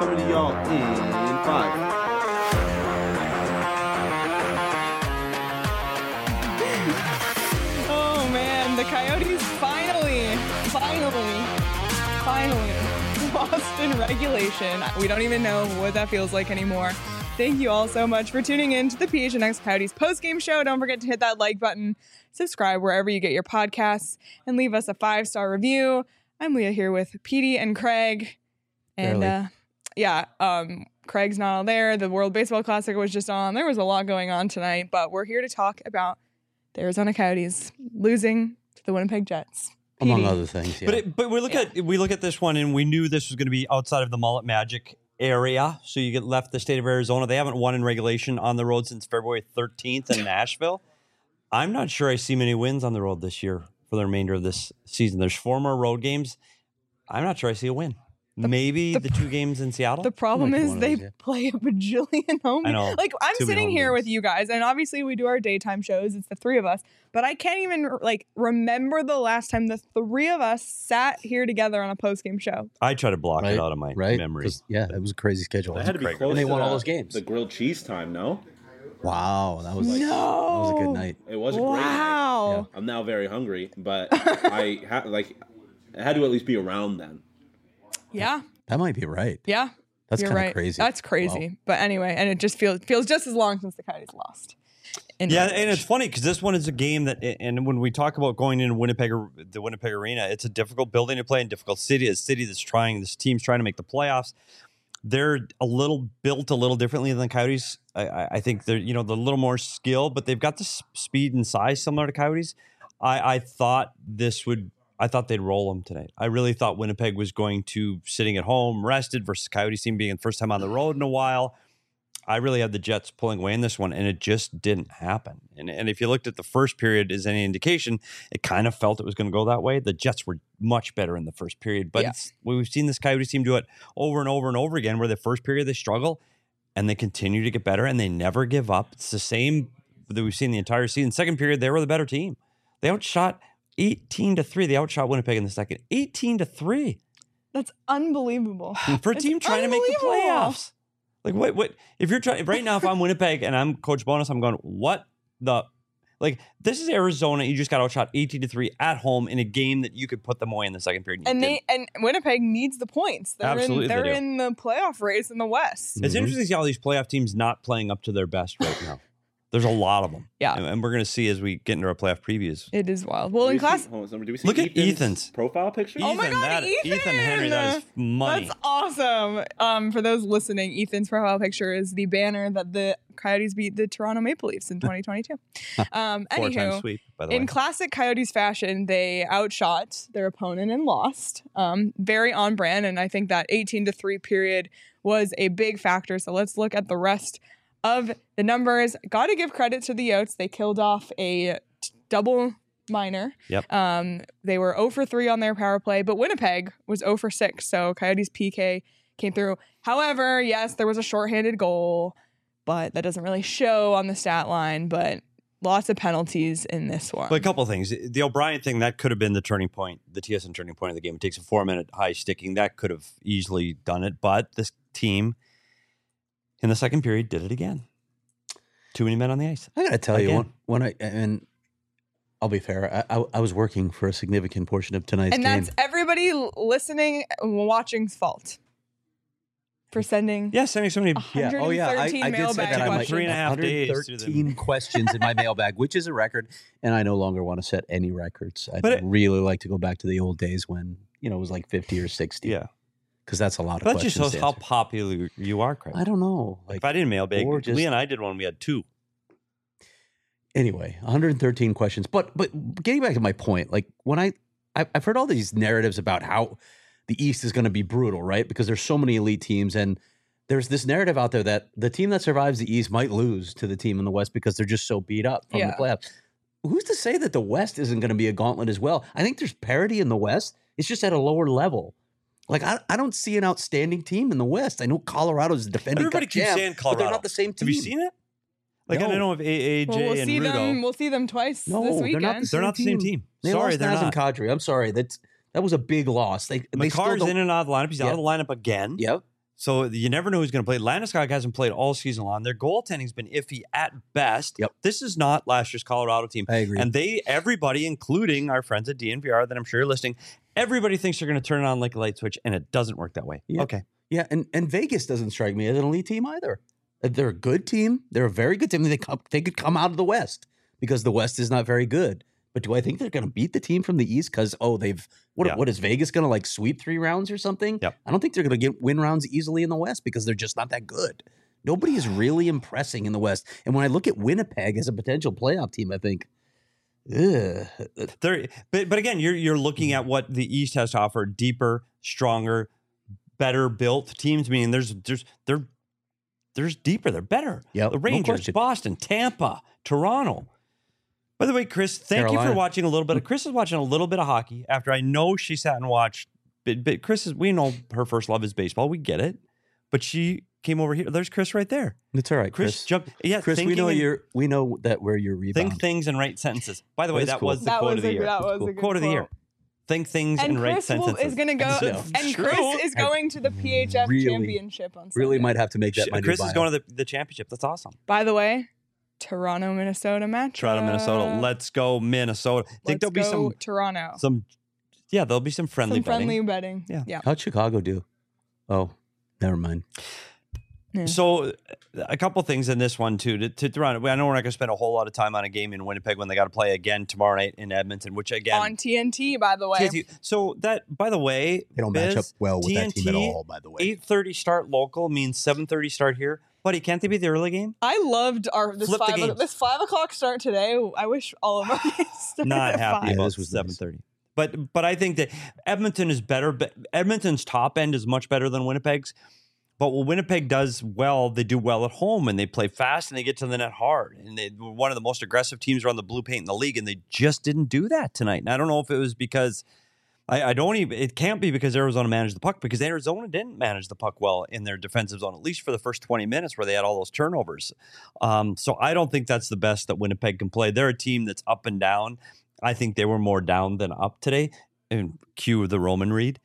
coming to y'all in 5. Oh man, the Coyotes finally lost in regulation. We don't even know what that feels like anymore. Thank you all so much for tuning in to the PHNX Coyotes postgame show. Don't forget to hit that like button, subscribe wherever you get your podcasts, and leave us a 5-star review. I'm Leah here with Petey and Craig. And Craig's not all there. The World Baseball Classic was just on. There was a lot going on tonight, but we're here to talk about the Arizona Coyotes losing to the Winnipeg Jets. Among other things, yeah. But we look at this one, and we knew this was going to be outside of the Mullet Magic area. So you get left the state of Arizona. They haven't won in regulation on the road since February 13th in Nashville. I'm not sure I see many wins on the road this year for the remainder of this season. There's 4 more road games. I'm not sure I see a win. Maybe the 2 games in Seattle. The problem is they play a bajillion home games. I know. Like, I'm sitting here with you guys, and obviously we do our daytime shows. It's the 3 of us. But I can't even, remember the last time the 3 of us sat here together on a postgame show. I try to block it out of my memory. Yeah, it was a crazy schedule. That had to be close. And they won all those games. The grilled cheese time, no? Wow, that was a good night. It was a great night. Wow. I'm now very hungry, but it had to at least be around then. Yeah. That might be right. Yeah. That's kind of crazy. That's crazy. Wow. But anyway, and it just feels just as long since the Coyotes lost. And it's funny because this one is a game that, and when we talk about going into the Winnipeg Arena, it's a difficult building to play in, difficult city. A city this team's trying to make the playoffs. They're built a little differently than the Coyotes. I think they're a little more skill, but they've got the speed and size similar to Coyotes. I thought they'd roll them tonight. I really thought Winnipeg was going to sitting at home, rested versus Coyotes team being the first time on the road in a while. I really had the Jets pulling away in this one, and it just didn't happen. And if you looked at the first period as any indication, it kind of felt it was going to go that way. The Jets were much better in the first period, but we've seen this Coyotes team do it over and over and over again, where the first period they struggle, and they continue to get better, and they never give up. It's the same that we've seen the entire season. Second period, they were the better team. They outshot 18-3. They outshot Winnipeg in the second. 18-3. That's unbelievable. For a team trying to make the playoffs. Like, what? If you're trying right now, if I'm Winnipeg and I'm Coach Bowness, I'm going, what the? Like, this is Arizona. You just got outshot 18-3 at home in a game that you could put them away in the second period. And Winnipeg needs the points. Absolutely, they're in the playoff race in the West. It's interesting to see all these playoff teams not playing up to their best right now. There's a lot of them. Yeah. And we're going to see as we get into our playoff previews. It is wild. Well, in class... Do we see look at Ethan's profile picture? Oh my God, Ethan Henry, that is money. That's awesome. For those listening, Ethan's profile picture is the banner that the Coyotes beat the Toronto Maple Leafs in 2022. 4-time sweep, by the way. In classic Coyotes fashion, they outshot their opponent and lost. Very on brand, and I think that 18-3 period was a big factor. So let's look at the rest of the numbers. Got to give credit to the Yotes. They killed off a double minor. Yep. They were 0 for 3 on their power play, but Winnipeg was 0 for 6. So Coyotes PK came through. However, yes, there was a shorthanded goal, but that doesn't really show on the stat line. But lots of penalties in this one. But a couple of things. The O'Brien thing, that could have been the turning point, the TSN turning point of the game. It takes a 4-minute high sticking. That could have easily done it. But this team in the second period did it again. Too many men on the ice. I got to tell you, and I'll be fair, I was working for a significant portion of tonight's game. And that's everybody listening and watching's fault. For sending sending so many 113 I did say that I might 3.5 days 113 questions in my mailbag, which is a record, and I no longer want to set any records. I'd really like to go back to the old days when it was like 50 or 60. Yeah. Because that's a lot of that questions. That just shows how popular you are, Craig. I don't know. Like, if I didn't mailbag, Lee and I did one. We had 2. Anyway, 113 questions. But getting back to my point, like when I've heard all these narratives about how the East is going to be brutal, right? Because there's so many elite teams, and there's this narrative out there that the team that survives the East might lose to the team in the West because they're just so beat up from the playoffs. Who's to say that the West isn't going to be a gauntlet as well? I think there's parity in the West. It's just at a lower level. Like, I don't see an outstanding team in the West. I know Colorado's defending Everybody keeps saying Colorado. but they're not the same team. Have you seen it? Like, No. I don't know if AJ and Rudo. We'll see them twice No, this they're weekend. not the They're not the same team. Sorry, they're Naz and not. Kadri. I'm sorry. That was a big loss. They still McCarr's don't. in and out of the lineup. He's out of the lineup again. Yep. So you never know who's going to play. Landeskog hasn't played all season long. Their goaltending's been iffy at best. Yep. This is not last year's Colorado team. I agree. And everybody, including our friends at DNVR that I'm sure you're listening, everybody thinks they're going to turn it on like a light switch, and it doesn't work that way. Yeah. Okay. Yeah, and Vegas doesn't strike me as an elite team either. They're a good team. They're a very good team. They could come out of the West because the West is not very good. But do I think they're going to beat the team from the East? Because what is Vegas going to like sweep 3 rounds or something? Yep. I don't think they're going to win rounds easily in the West because they're just not that good. Nobody is really impressing in the West. And when I look at Winnipeg as a potential playoff team, I think, ugh. But again, you're looking at what the East has to offer: deeper, stronger, better built teams. Meaning there's deeper, they're better. Yep, The no Rangers, question. Boston, Tampa, Toronto. By the way, Chris, thank you for watching a little bit. Chris is watching a little bit of hockey after I know she sat and watched. But Chris we know her first love is baseball. We get it. But she came over here. There's Chris right there. It's all right, Chris jumped. Yeah, Chris, we know that where you're rebound. Think things and write sentences. By the way, that cool. was the quote of the year. That was a good Quote of the year. Think things and write Chris sentences. is going to go, and Chris is going to the PHF championship on Sunday. Really might have to make that my new Chris is bio. going to the championship. That's awesome. By the way, Toronto, Minnesota match. Toronto, Minnesota. Let's go, Minnesota. Think there'll be Toronto. There'll be some friendly betting. Yeah. How'd Chicago do? Oh, never mind. Yeah. So a couple things in this one too. To Toronto, I know we're not going to spend a whole lot of time on a game in Winnipeg when they got to play again tomorrow night in Edmonton, which again on TNT, by the way. TNT. So that, by the way, They don't match up well with that team at all, by the way. 8:30 start local means 7:30 start here. Buddy, can't they be the early game? I loved this 5 o'clock start today. I wish all of our games started Not at happy 5. about this was nice. 7:30. But I think that Edmonton is better. But Edmonton's top end is much better than Winnipeg's. But what Winnipeg does well, they do well at home, and they play fast, and they get to the net hard. And they were one of the most aggressive teams around the blue paint in the league, and they just didn't do that tonight. And I don't know if it was because it can't be because Arizona managed the puck, because Arizona didn't manage the puck well in their defensive zone, at least for the first 20 minutes where they had all those turnovers. So I don't think that's the best that Winnipeg can play. They're a team that's up and down. I think they were more down than up today. And cue the Roman Reed.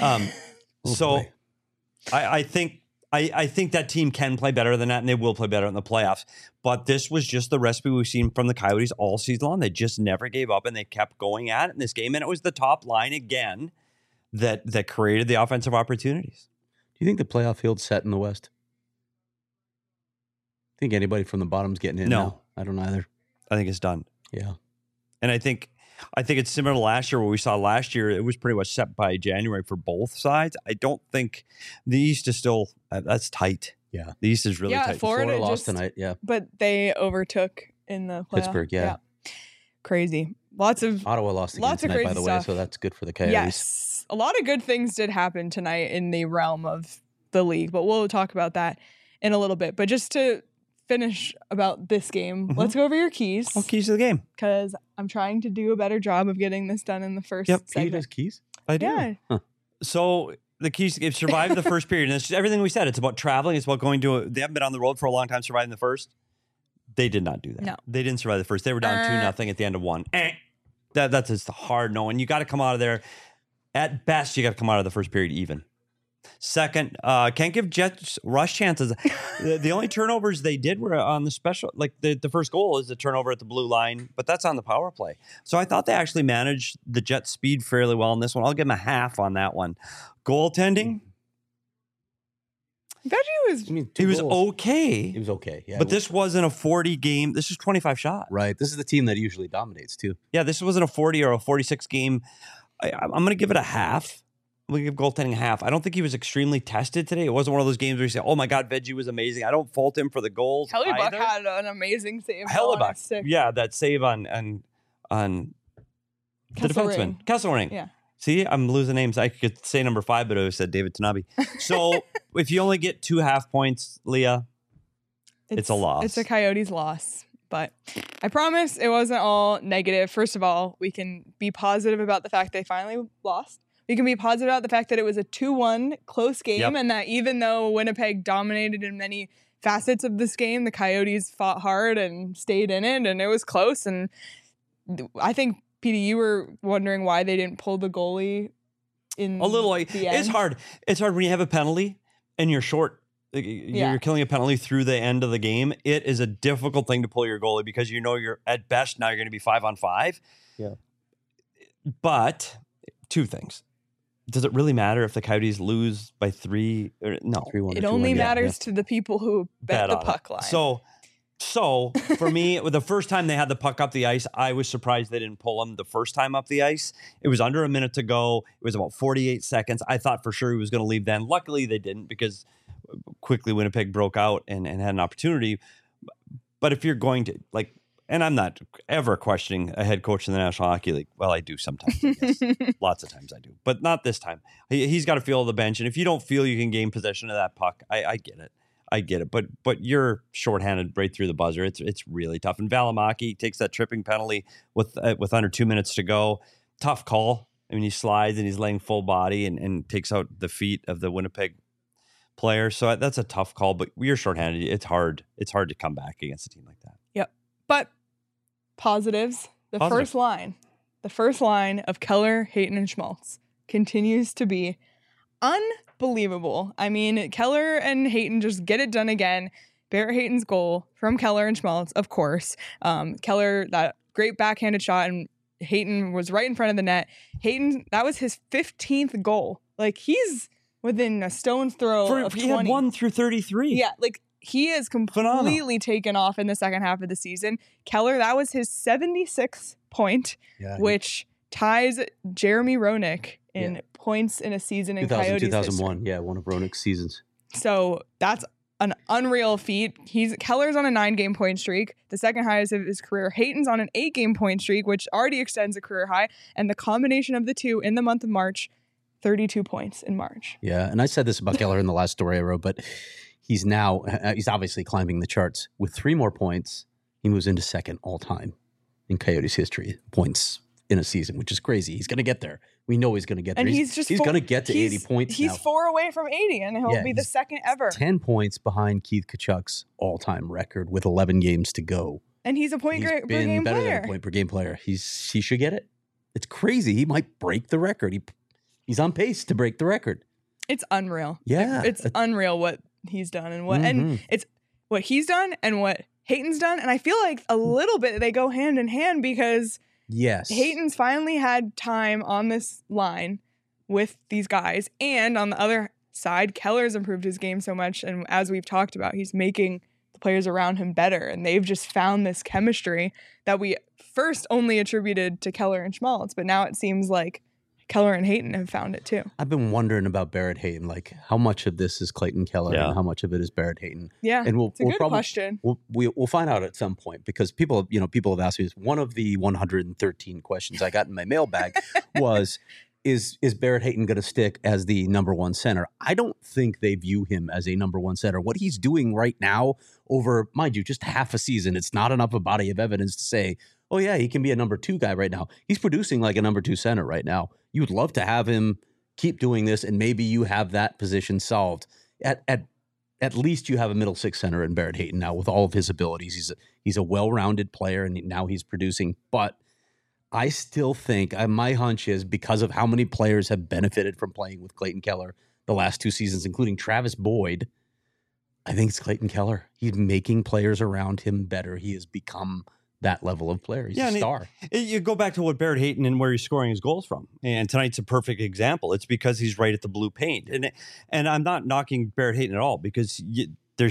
So I think that team can play better than that, and they will play better in the playoffs. But this was just the recipe we've seen from the Coyotes all season long. They just never gave up, and they kept going at it in this game. And it was the top line again that created the offensive opportunities. Do you think the playoff field's set in the West? Think anybody from the bottom's getting in? No. now? I don't either. I think it's done. Yeah. And I think it's similar to last year. What we saw last year, it was pretty much set by January for both sides. I don't think the East is still that's tight. Yeah. The East is really tight. Florida lost tonight. Yeah. But they overtook in the playoff. Pittsburgh, yeah. Crazy. Ottawa lost again tonight, by crazy the way, stuff. so that's good for the Coyotes. Yes. A lot of good things did happen tonight in the realm of the league, but we'll talk about that in a little bit. But just to finish about this game, let's go over your keys. Oh, keys to the game. Because I'm trying to do a better job of getting this done in the first He segment. does keys? I do. Yeah. So the keys to survive the first period. And it's just everything we said. It's about traveling. It's about going to they haven't been on the road for a long time, surviving the first. They did not do that. No. They didn't survive the first. They were down 2-0 at the end of one. That's just a hard no. And you got to come out of there. At best, you got to come out of the first period even. Second, can't give Jets rush chances. The only turnovers they did were on the special, like the first goal is the turnover at the blue line, but that's on the power play. So I thought they actually managed the Jets' speed fairly well in this one. I'll give them a half on that one. Goaltending, he was okay. He was okay, yeah. But this wasn't a 40 game. This is 25 shots. Right. This is the team that usually dominates, too. Yeah, this wasn't a 40 or a 46 game. I'm going to give it a half. I'm going to give goaltending a half. I don't think he was extremely tested today. It wasn't one of those games where you say, oh my God, Veggie was amazing. I don't fault him for the goals. Hellebuck had an amazing save. Hellebuck. Yeah, that save on the defenseman. Kesselring. Yeah. See, I'm losing names. I could say number 5, but I said David Tanabe. So if you only get 2 half points, Leah, it's a loss. It's a Coyotes loss. But I promise it wasn't all negative. First of all, we can be positive about the fact they finally lost. We can be positive about the fact that it was a 2-1 close game, and that even though Winnipeg dominated in many facets of this game, the Coyotes fought hard and stayed in it, and it was close. And I think, PD, you were wondering why they didn't pull the goalie in a little. Like, the end. It's hard. It's hard when you have a penalty and you're short. You're killing a penalty through the end of the game. It is a difficult thing to pull your goalie because you're at best now you're going to be 5-on-5. Yeah. But two things. Does it really matter if the Coyotes lose by 3? No. 3-1 It or 2-1, only yeah. matters to the people who bet the on puck it. line. So for me, the first time they had the puck up the ice, I was surprised they didn't pull him the first time up the ice. It was under a minute to go. It was about 48 seconds. I thought for sure he was going to leave then. Luckily, they didn't because quickly Winnipeg broke out and had an opportunity. But if you're going to, like, and I'm not ever questioning a head coach in the National Hockey League. Well, I do sometimes. Yes. Lots of times I do. But not this time. He's got to feel the bench. And if you don't feel you can gain possession of that puck, I get it. I get it, but you're shorthanded right through the buzzer. It's really tough. And Valimaki takes that tripping penalty with under 2 minutes to go. Tough call. I mean, he slides and he's laying full body and takes out the feet of the Winnipeg player. So that's a tough call. But you're shorthanded. It's hard. It's hard to come back against a team like that. Yep. But positives. The first line of Keller, Hayton, and Schmaltz continues to be unbelievable. I mean, Keller and Hayton just get it done again. Barrett Hayton's goal from Keller and Schmaltz, of course. Keller, that great backhanded shot, and Hayton was right in front of the net. Hayton, that was his 15th goal. Like, he's within a stone's throw of 20. He had 1 through 33. Yeah, like, he is completely taken off in the second half of the season. Keller, that was his 76th point, which ties Jeremy Roenick in points in a season in Coyotes 2001, history. yeah, one of Roenick's seasons. So that's an unreal feat. Keller's on a 9-game point streak, the second highest of his career. Hayton's on an 8-game point streak, which already extends a career high. And the combination of the two in the month of March, 32 points in March. Yeah, and I said this about Keller in the last story I wrote, but he's obviously climbing the charts. With 3 more points, he moves into second all time in Coyotes history, points in a season, which is crazy. He's going to get there. We know he's going to get there. And he's going to get to 80 points He's now. 4 away from 80, and he'll be the second ever. 10 points behind Keith Tkachuk's all-time record with 11 games to go. And he's a point per game better player. than a point per game player. He should get it. It's crazy. He might break the record. He's on pace to break the record. It's unreal. Yeah. It's unreal what he's done and it's what he's done and what Hayton's done. And I feel like a little bit they go hand in hand because Hayton's finally had time on this line with these guys. And on the other side, Keller's improved his game so much. And as we've talked about, he's making the players around him better. And they've just found this chemistry that we first only attributed to Keller and Schmaltz. But now it seems like Keller and Hayton have found it too. I've been wondering about Barrett Hayton, like how much of this is Clayton Keller and how much of it is Barrett Hayton. Yeah, and it's a good question. We'll find out at some point because people have asked me this. One of the 113 questions I got in my mailbag was, is Barrett Hayton going to stick as the number 1 center? I don't think they view him as a number 1 center. What he's doing right now over, mind you, just half a season, it's not enough a body of evidence to say, oh yeah, he can be a number 2 guy right now. He's producing like a number 2 center right now. You would love to have him keep doing this, and maybe you have that position solved. At least you have a middle 6 center in Barrett Hayton now with all of his abilities. He's a well-rounded player, and now he's producing. But I still think, my hunch is because of how many players have benefited from playing with Clayton Keller the last 2 seasons, including Travis Boyd, I think it's Clayton Keller. He's making players around him better. He has become that level of player. He's a star. You go back to what Barrett Hayton and where he's scoring his goals from. And tonight's a perfect example. It's because he's right at the blue paint. And I'm not knocking Barrett Hayton at all because you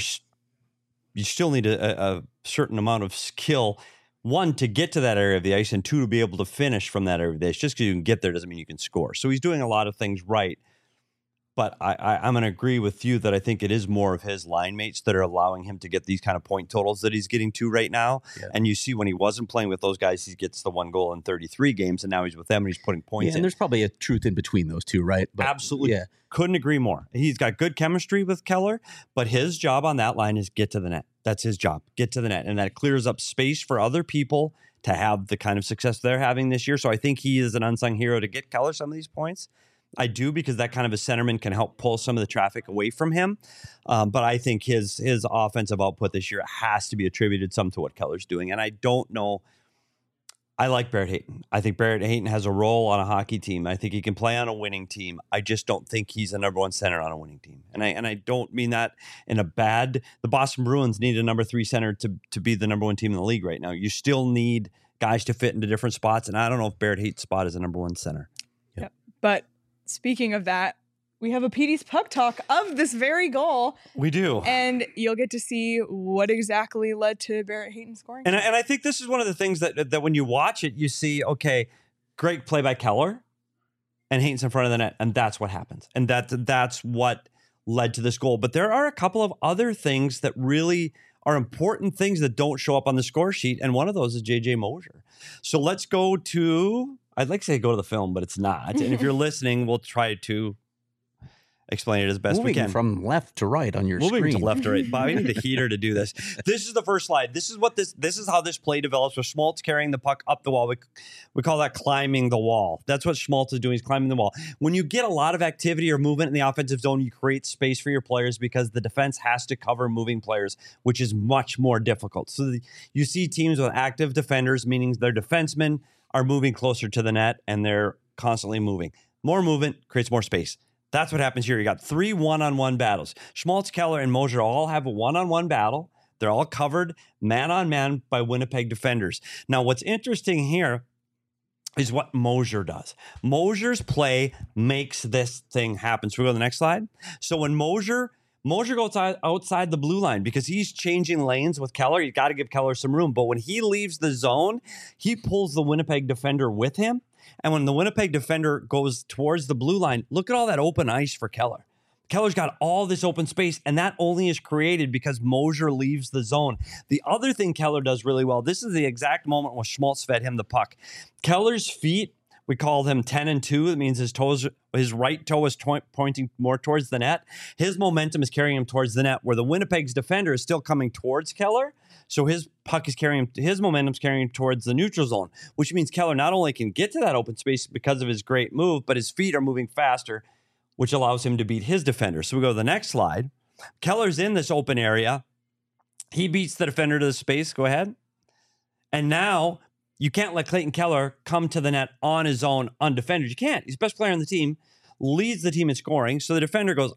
still need a certain amount of skill, 1, to get to that area of the ice, and 2, to be able to finish from that area of the ice. Just because you can get there doesn't mean you can score. So he's doing a lot of things right. But I'm going to agree with you that I think it is more of his line mates that are allowing him to get these kind of point totals that he's getting to right now. Yeah. And you see when he wasn't playing with those guys, he gets the 1 goal in 33 games, and now he's with them and he's putting points in. And there's probably a truth in between those two, right? But absolutely. Yeah. Couldn't agree more. He's got good chemistry with Keller, but his job on that line is get to the net. That's his job. Get to the net. And that clears up space for other people to have the kind of success they're having this year. So I think he is an unsung hero to get Keller some of these points. I do, because that kind of a centerman can help pull some of the traffic away from him. But I think his offensive output this year has to be attributed some to what Keller's doing. And I don't know I like Barrett Hayton. I think Barrett Hayton has a role on a hockey team. I think he can play on a winning team. I just don't think he's a number one center on a winning team. And I don't mean that in a bad. The Boston Bruins need a number 3 center to be the number one team in the league right now. You still need guys to fit into different spots. And I don't know if Barrett Hayton's spot is a number 1 center. Yep. But speaking of that, we have a PD's Puck Talk of this very goal. We do. And you'll get to see what exactly led to Barrett Hayton scoring. And I think this is one of the things that when you watch it, you see, okay, great play by Keller and Hayton's in front of the net. And that's what happens. And that's what led to this goal. But there are a couple of other things that really are important things that don't show up on the score sheet. And one of those is JJ Moser. So let's go to, I'd like to say go to the film, but it's not. And if you're listening, we'll try to explain it as best we can. From left to right on your screen. Moving to left to right. Bob, I need a heater to do this. This is the first slide. This is how this play develops with Schmaltz carrying the puck up the wall. We call that climbing the wall. That's what Schmaltz is doing. He's climbing the wall. When you get a lot of activity or movement in the offensive zone, you create space for your players because the defense has to cover moving players, which is much more difficult. So you see teams with active defenders, meaning their defensemen are moving closer to the net and they're constantly moving. More movement creates more space. That's what happens here. You got 3 one-on-one battles. Schmaltz, Keller, and Moser all have a one-on-one battle. They're all covered man-on-man by Winnipeg defenders. Now, what's interesting here is what Moser does. Moser's play makes this thing happen. So we go to the next slide. So when Moser goes outside the blue line because he's changing lanes with Keller, you got to give Keller some room. But when he leaves the zone, he pulls the Winnipeg defender with him. And when the Winnipeg defender goes towards the blue line, look at all that open ice for Keller. Keller's got all this open space, and that only is created because Moser leaves the zone. The other thing Keller does really well, this is the exact moment when Schmaltz fed him the puck. Keller's feet, we call them 10 and 2. That means his right toe is pointing more towards the net. His momentum is carrying him towards the net, where the Winnipeg's defender is still coming towards Keller. So his puck is his momentum's carrying him towards the neutral zone, which means Keller not only can get to that open space because of his great move, but his feet are moving faster, which allows him to beat his defender. So we go to the next slide. Keller's in this open area. He beats the defender to the space. Go ahead. And now you can't let Clayton Keller come to the net on his own undefended. You can't. He's the best player on the team, leads the team in scoring. So the defender goes,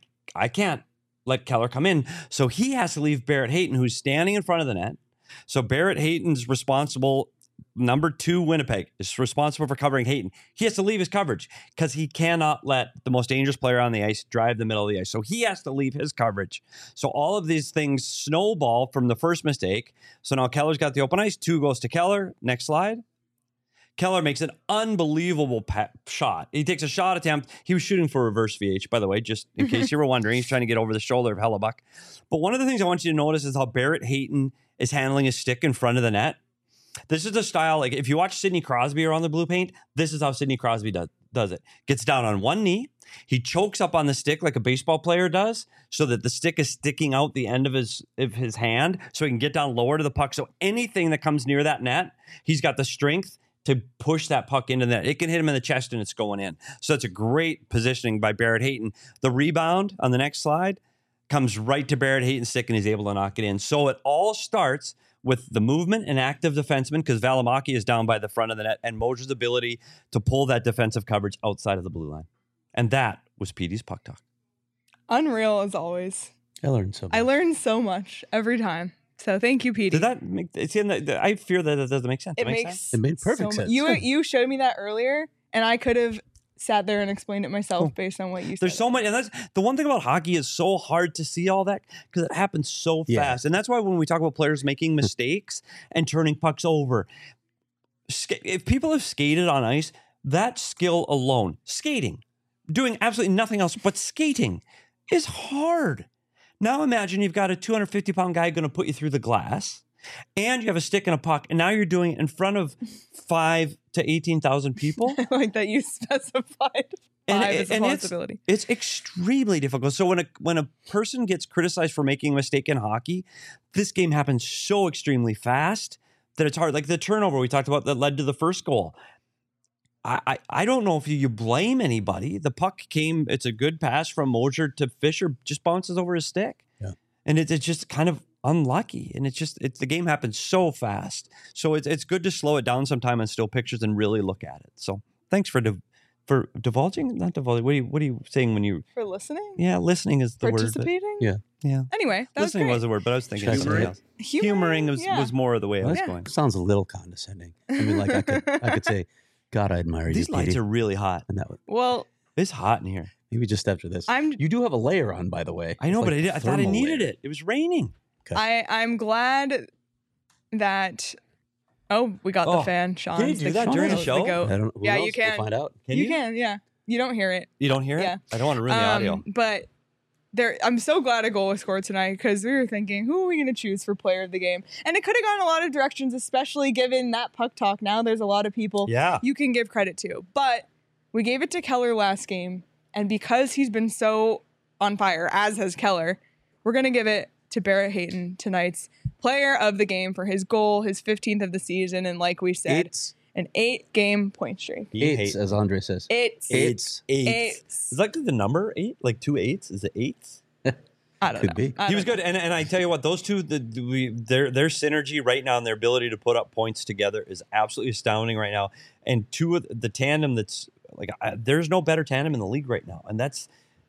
I can't let Keller come in. So he has to leave Barrett Hayton, who's standing in front of the net. So Barrett Hayton's responsible, number 2 Winnipeg, is responsible for covering Hayton. He has to leave his coverage because he cannot let the most dangerous player on the ice drive the middle of the ice. So he has to leave his coverage. So all of these things snowball from the first mistake. So now Keller's got the open ice. 2 goes to Keller. Next slide. Keller makes an unbelievable shot. He takes a shot attempt. He was shooting for reverse VH, by the way, just in case you were wondering. He's trying to get over the shoulder of Hellebuck. But one of the things I want you to notice is how Barrett Hayton is handling his stick in front of the net. This is a style, like if you watch Sidney Crosby around the blue paint, this is how Sidney Crosby does it. Gets down on one knee. He chokes up on the stick like a baseball player does so that the stick is sticking out the end of his hand so he can get down lower to the puck. So anything that comes near that net, he's got the strength to push that puck into the net. It can hit him in the chest and it's going in. So that's a great positioning by Barrett Hayton. The rebound on the next slide comes right to Barrett Hayton's stick and he's able to knock it in. So it all starts with the movement and active defenseman because Valimaki is down by the front of the net and Moser's ability to pull that defensive coverage outside of the blue line. And that was PD's Puck Talk. Unreal as always. I learned so much. I learn so much every time. So thank you, PD. Did that make I fear that it doesn't make sense. It makes It made perfect sense. You showed me that earlier, and I could have sat there and explained it myself based on what you said. There's so much, and that's the one thing about hockey is so hard to see all that because it happens so fast. And that's why when we talk about players making mistakes and turning pucks over, if people have skated on ice, that skill alone, skating, doing absolutely nothing else but skating, is hard. Now imagine you've got a 250-pound guy going to put you through the glass, and you have a stick and a puck, and now you're doing it in front of 5,000 to 18,000 people. I like that you specified 5 as a possibility. It's extremely difficult. So when a person gets criticized for making a mistake in hockey, this game happens so extremely fast that it's hard. Like the turnover we talked about that led to the first goal. I don't know if you blame anybody. The puck came, it's a good pass from Moser to Fisher, just bounces over his stick. Yeah. And it's just kind of unlucky, and it's the game happens so fast. So it's good to slow it down sometime on still pictures and really look at it. So thanks for divulging, not divulging. What are you saying when you For listening? Yeah, listening is the word. Participating? Yeah. Yeah. Anyway, that Listening was was the word, but I was thinking Should I something say else. Humoring, Humoring was more of the way I was That going. sounds a little condescending. I mean, like I could say, God, I admire These you, lights Petey. are really hot. And that would, Well, It's hot in here. maybe just after this. I'm- You do have a layer on, by the way. I know, It's but like I thought I thermal needed layer. it. It was raining. I'm glad that. Oh, we got the Oh, fan, Sean. can you do that during the show? I don't, who Yeah, knows? you can. We'll find out. You can, yeah. You don't hear it. You don't hear it? Yeah. I don't want to ruin the audio. But I'm so glad a goal was scored tonight because we were thinking, who are we going to choose for player of the game? And it could have gone a lot of directions, especially given that puck talk. Now there's a lot of people Yeah. you can give credit to. But we gave it to Keller last game. And because he's been so on fire, as has Keller, we're going to give it to Barrett Hayton, tonight's player of the game, for his goal, his 15th of the season. And like we said, an 8-game point streak. Eights, as Andre says. Eights. Is that the number 8? Like 2 8s? Is it 8s? I don't Could know. be. I He was don't good, and I tell you what, those two, their synergy right now and their ability to put up points together is absolutely astounding right now. And two of the tandem that's like, there's no better tandem in the league right now, and that's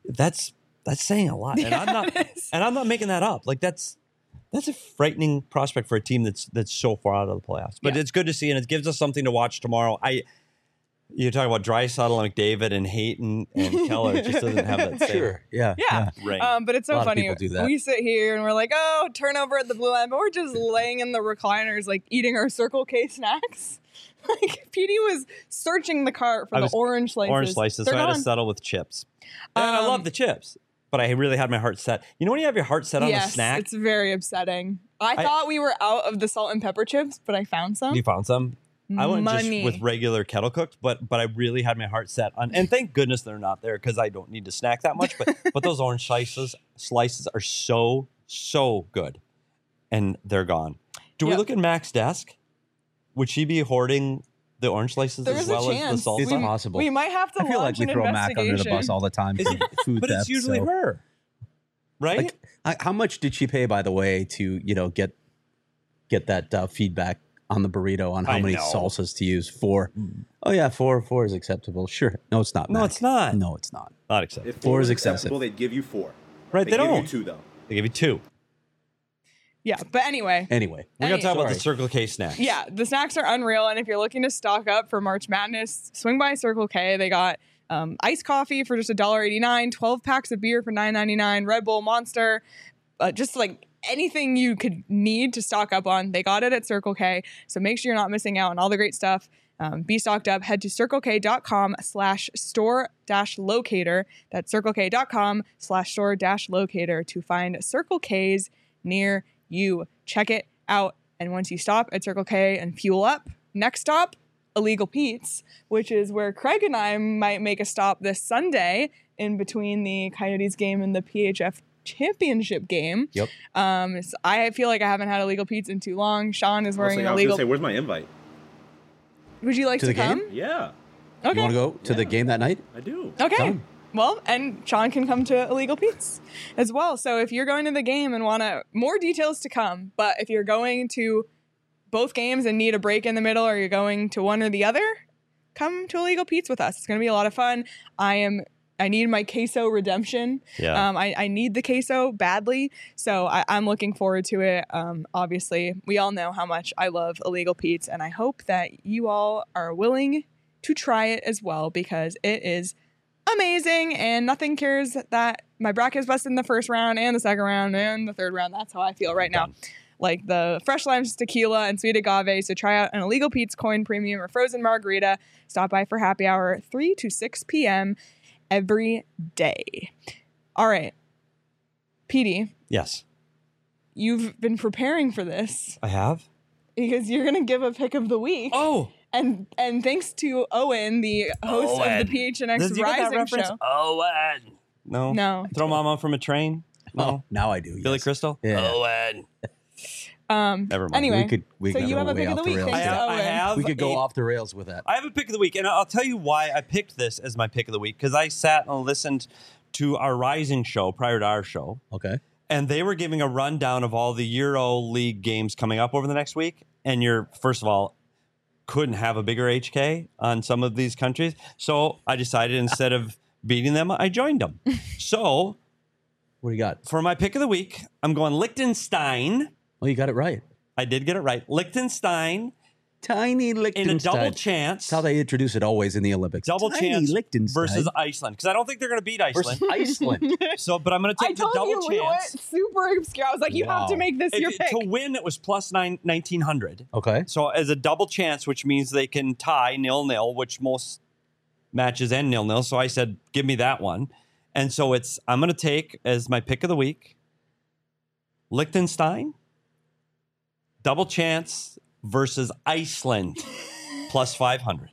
saying a lot. And Yeah, I'm not, it is. and I'm not making that up. Like that's a frightening prospect for a team that's so far out of the playoffs. But Yeah. it's good to see, and it gives us something to watch tomorrow. You're talking about Draisaitl and McDavid and Hayton and Keller. It just doesn't have that same Sure. Yeah. Yeah. ring. But it's A so lot of funny. people do that. We sit here and we're like, oh, turnover at the blue line, but we're just laying in the recliners, like eating our Circle K snacks. Like, Petey was searching the cart for I the was- orange slices. Orange slices, They're so I had to gone. settle with chips. And I love the chips, but I really had my heart set. You know when you have your heart set on a Yes, snack? it's very upsetting. I thought we were out of the salt and pepper chips, but I found some. You found some? I went Money. just with regular kettle cooked, but I really had my heart set on, and thank goodness they're not there because I don't need to snack that much. But those orange slices are so good, and they're gone. Do we Yep. look at Mac's desk? Would she be hoarding the orange slices There as is a well as the chance. salsa? It's possible. We might have to I feel like launch we an throw Mac investigation. under the bus all the time for food But theft. it's usually so. her, right? Like, how much did she pay, by the way, to get that feedback on the burrito on how I many know. salsas to use? 4. Oh yeah, four is acceptable. Sure. No, it's not. No, Mac. it's not. No, it's not. Not acceptable. If 4 is was excessive. acceptable, they'd give you 4. Right, They they give don't. you 2 though. They give you 2. Yeah, but anyway. Anyway, We're gonna talk about the Sorry. Circle K snacks. Yeah, the snacks are unreal. And if you're looking to stock up for March Madness, swing by Circle K. They got iced coffee for just $1.89, 12 packs of beer for $9.99, Red Bull, Monster, just like anything you could need to stock up on. They got it at Circle K. So make sure you're not missing out on all the great stuff. Be stocked up. Head to circlek.com/store-locator. That's circlek.com/store-locator to find Circle K's near you. Check it out. And once you stop at Circle K and fuel up, next stop, Illegal Pete's, which is where Craig and I might make a stop this Sunday in between the Coyotes game and the PHF championship game. Yep. So I feel like I haven't had Illegal Pete's in too long. Sean is wearing Also, an I was illegal. gonna say, where's my invite? Would you like To to the game? come? Yeah, Okay. You want to go to the Yeah. game that night? I do. Okay. Done. Well, and Sean can come to Illegal Pete's as well. So if you're going to the game and want more details to come, but if you're going to both games and need a break in the middle, or you're going to one or the other, come to Illegal Pete's with us. It's going to be a lot of fun. I need my queso redemption. Yeah. I need the queso badly, so I'm looking forward to it. Obviously, we all know how much I love Illegal Pete's, and I hope that you all are willing to try it as well, because it is amazing, and nothing cares that my bracket is busted in the first round and the second round and the third round. That's how I feel right now. Like the fresh limes, tequila, and sweet agave. So try out an Illegal Pete's Coin Premium or Frozen Margarita. Stop by for happy hour 3 to 6 p.m. every day. All right. Petey, Yes, you've been preparing for this I have. because you're going to give a pick of the week. Oh, And thanks to Owen, the host of the PHNX Did you get that Rising reference? show. Owen. No. No. Throw Mama from a train. No. Oh, now I do. Billy yes. Crystal. Yeah. Owen. Never Never mind. Anyway, We so could you go have a way pick of the off week. rails. Thanks to I Owen. have. We could go off the rails with that. I have a pick of the week, and I'll tell you why I picked this as my pick of the week, because I sat and listened to our Rising show prior to our show, Okay. And they were giving a rundown of all the Euro League games coming up over the next week. And you're, first of all, couldn't have a bigger HK on some of these countries. So I decided instead of beating them, I joined them. So What do you got? for my pick of the week, I'm going Liechtenstein. Well, you got it right. I did get it right. Liechtenstein Tiny in Liechtenstein. a double chance. That's how they introduce it always in the Olympics. Double Tiny chance Liechtenstein versus Iceland. Because I don't think they're going to beat Iceland. versus Iceland. So, but I'm going to I take the told double you we went chance. super obscure. I was like, you have to Wow. make this your pick. To win, it was plus 1900. Okay. So as a double chance, which means they can tie 0-0, which most matches end 0-0. So I said, give me that one. And so I'm going to take as my pick of the week, Liechtenstein, double chance versus Iceland, plus 500.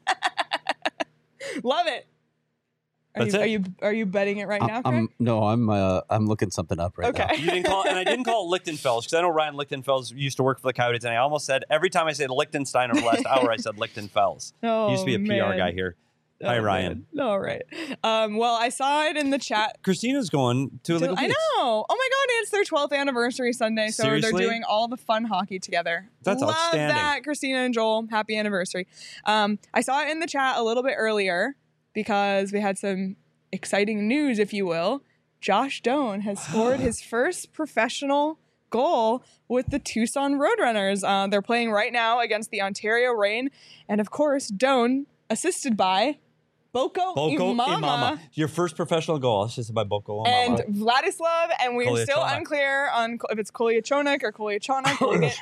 Love it. That's it. Are you betting it right now, Craig? I'm looking something up right now. Okay. You didn't call, and I didn't call it Lichtenfels because I know Ryan Lichtenfels used to work for the Coyotes, and I almost said every time I said Liechtenstein over the last hour, I said Lichtenfels. Oh, He used to be a PR man. guy here. Hi, Oh, Ryan. man. All right. Well, I saw it in the chat. Christina's going to Illegal I Beats. know. Oh my God, it's their 12th anniversary Sunday, so Seriously? they're doing all the fun hockey together. That's Love outstanding. that, Christina and Joel. Happy anniversary. I saw it in the chat a little bit earlier because we had some exciting news, if you will. Josh Doan has scored his first professional goal with the Tucson Roadrunners. They're playing right now against the Ontario Reign, and of course, Doan assisted by Boko Imama. Your first professional goal. It's just by Boko And Imama. Vladislav, and we're still Kolyachonok. unclear on if it's Kolyachonok or Kolyachonok.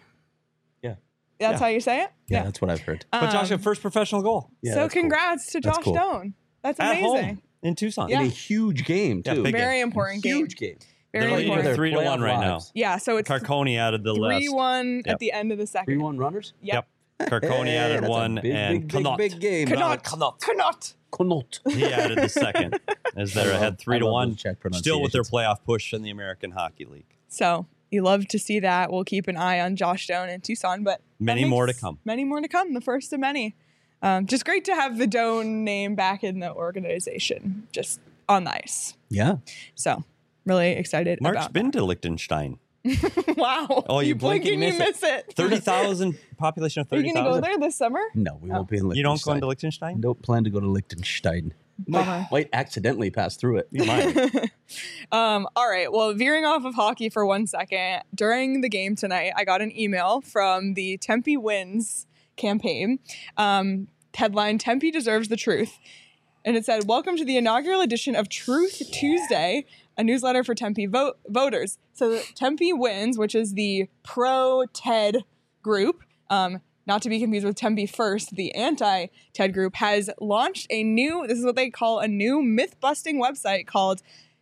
Yeah. That's how you say it? Yeah, that's what I've heard. But Josh, your first professional goal Yeah, so that's cool. congrats to That's Josh cool. Doan. That's at amazing. home in Tucson. Yeah. In a huge game, Yeah, too. big Very game. important game. Huge game. Very They're leading important. 3-1 right now. Yeah, so it's Carconi added the list. 3-1 Yep. at the end of the second. 3-1 runners? Yep. Carconi Hey, added that's a one, big, and big, Connaught. big game. Connaught. Connaught. Connaught. Connaught. He added the second as they're ahead I love 3-1. those Czech Still with their pronunciations. playoff push in the American Hockey League. So you love to see that. We'll keep an eye on Josh Doan in Tucson, but that Many more to makes come. Many more to come. The first of many. Just great to have the Doan name back in the organization, just on the ice. Yeah. So really excited Mark's about been to Liechtenstein. that. Wow. Oh, you blink and you you miss it. 30,000, population of Are you going to go 30,000. there this summer? No, we won't be in Liechtenstein. You don't go into Liechtenstein? Don't plan to go to Liechtenstein. Bummer. Might accidentally pass through it. You might. All right. Well, veering off of hockey for 1 second, during the game tonight, I got an email from the Tempe Wins campaign. Headline, Tempe Deserves the Truth. And it said, welcome to the inaugural edition of Truth Tuesday, a newsletter for Tempe voters. So Tempe Wins, which is the pro-TED group, not to be confused with Tempe First, the anti-TED group, has launched this is what they call a new myth-busting website called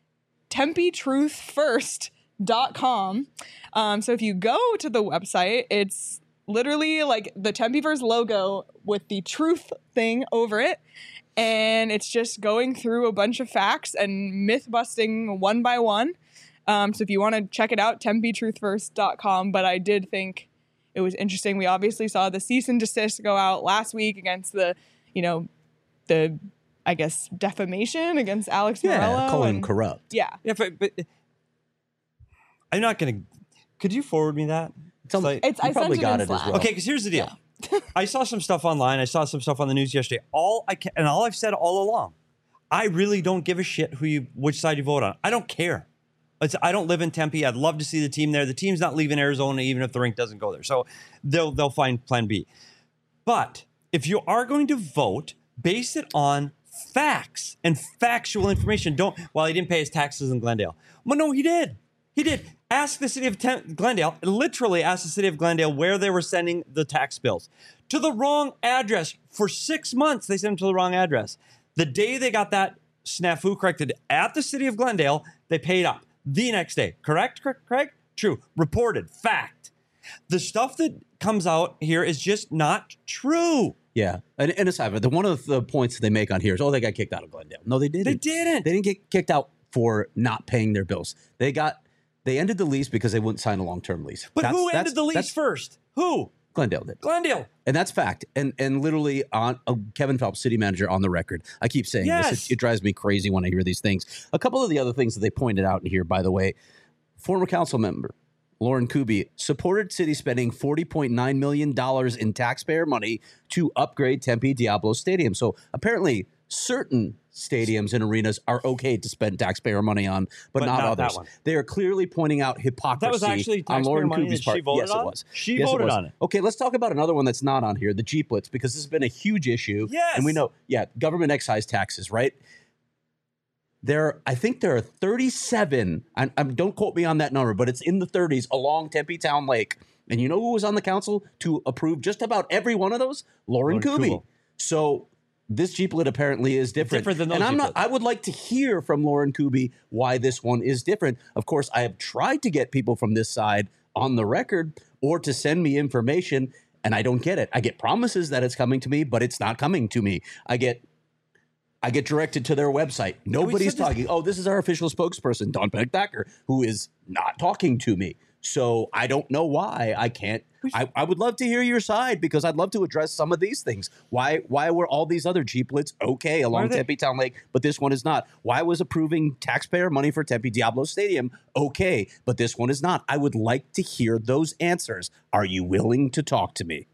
TempeTruthFirst.com. So if you go to the website, it's literally like the Tempe First logo with the truth thing over it. And it's just going through a bunch of facts and myth busting one by one. So if you want to check it out, TempeTruthFirst.com. But I did think it was interesting. We obviously saw the cease and desist go out last week against the I guess, defamation against Alex Morello. Call him and- corrupt. Yeah. Yeah, but I'm not going to. Could you forward me that? It's on- like- I sent probably it got in it as Slack. well. Okay, because here's the deal. I saw some stuff online. I saw some stuff on the news yesterday. All I've said all along, I really don't give a shit which side you vote on. I don't care. I don't live in Tempe. I'd love to see the team there. The team's not leaving Arizona, even if the rink doesn't go there. So they'll find Plan B. But if you are going to vote, base it on facts and factual information. Well, he didn't pay his taxes in Glendale. Well, no, he did. He did. Ask the city of Glendale, literally ask the city of Glendale where they were sending the tax bills. To the wrong address. For 6 months, they sent them to the wrong address. The day they got that snafu corrected at the city of Glendale, they paid up. The next day. Correct, Craig? True. Reported. Fact. The stuff that comes out here is just not true. Yeah. And aside, but one of the points they make on here is, they got kicked out of Glendale. No, they didn't. They didn't. They didn't get kicked out for not paying their bills. They ended the lease because they wouldn't sign a long-term lease. But who ended the lease first? Who? Glendale did. Glendale. And that's fact. And literally on Kevin Phelps, city manager, on the record. I keep saying this. Yes. It drives me crazy when I hear these things. A couple of the other things that they pointed out in here, by the way, Former council member Lauren Kuby supported city spending $40.9 million in taxpayer money to upgrade Tempe Diablo Stadium. So apparently certain stadiums and arenas are okay to spend taxpayer money on, but not not that others. one. They are clearly pointing out hypocrisy That was actually on taxpayer Lauren money Kuby's that part. she voted Yes, on? it was. She Yes, voted was. on it. Okay, let's talk about another one that's not on here, the Jeep Blitz, because this has been a huge issue. Yes. And we know, government excise taxes, right? I think there are 37, don't quote me on that number, but it's in the 30s along Tempe Town Lake. And you know who was on the council to approve just about every one of those? Lauren Kuby. Kubel. So this Jeep Lit apparently is different. Different than those and I'm Jeep not. Lits. I would like to hear from Lauren Kuby why this one is different. Of course, I have tried to get people from this side on the record or to send me information, and I don't get it. I get promises that it's coming to me, but it's not coming to me. I get directed to their website. Nobody's talking. Oh, this is our official spokesperson, Don Beck-Thacker, who is not talking to me. So I don't know why I can't. I would love to hear your side because I'd love to address some of these things. Why were all these other Jeep Lits okay along Tempe Town Lake, but this one is not? Why was approving taxpayer money for Tempe Diablo Stadium okay, but this one is not? I would like to hear those answers. Are you willing to talk to me?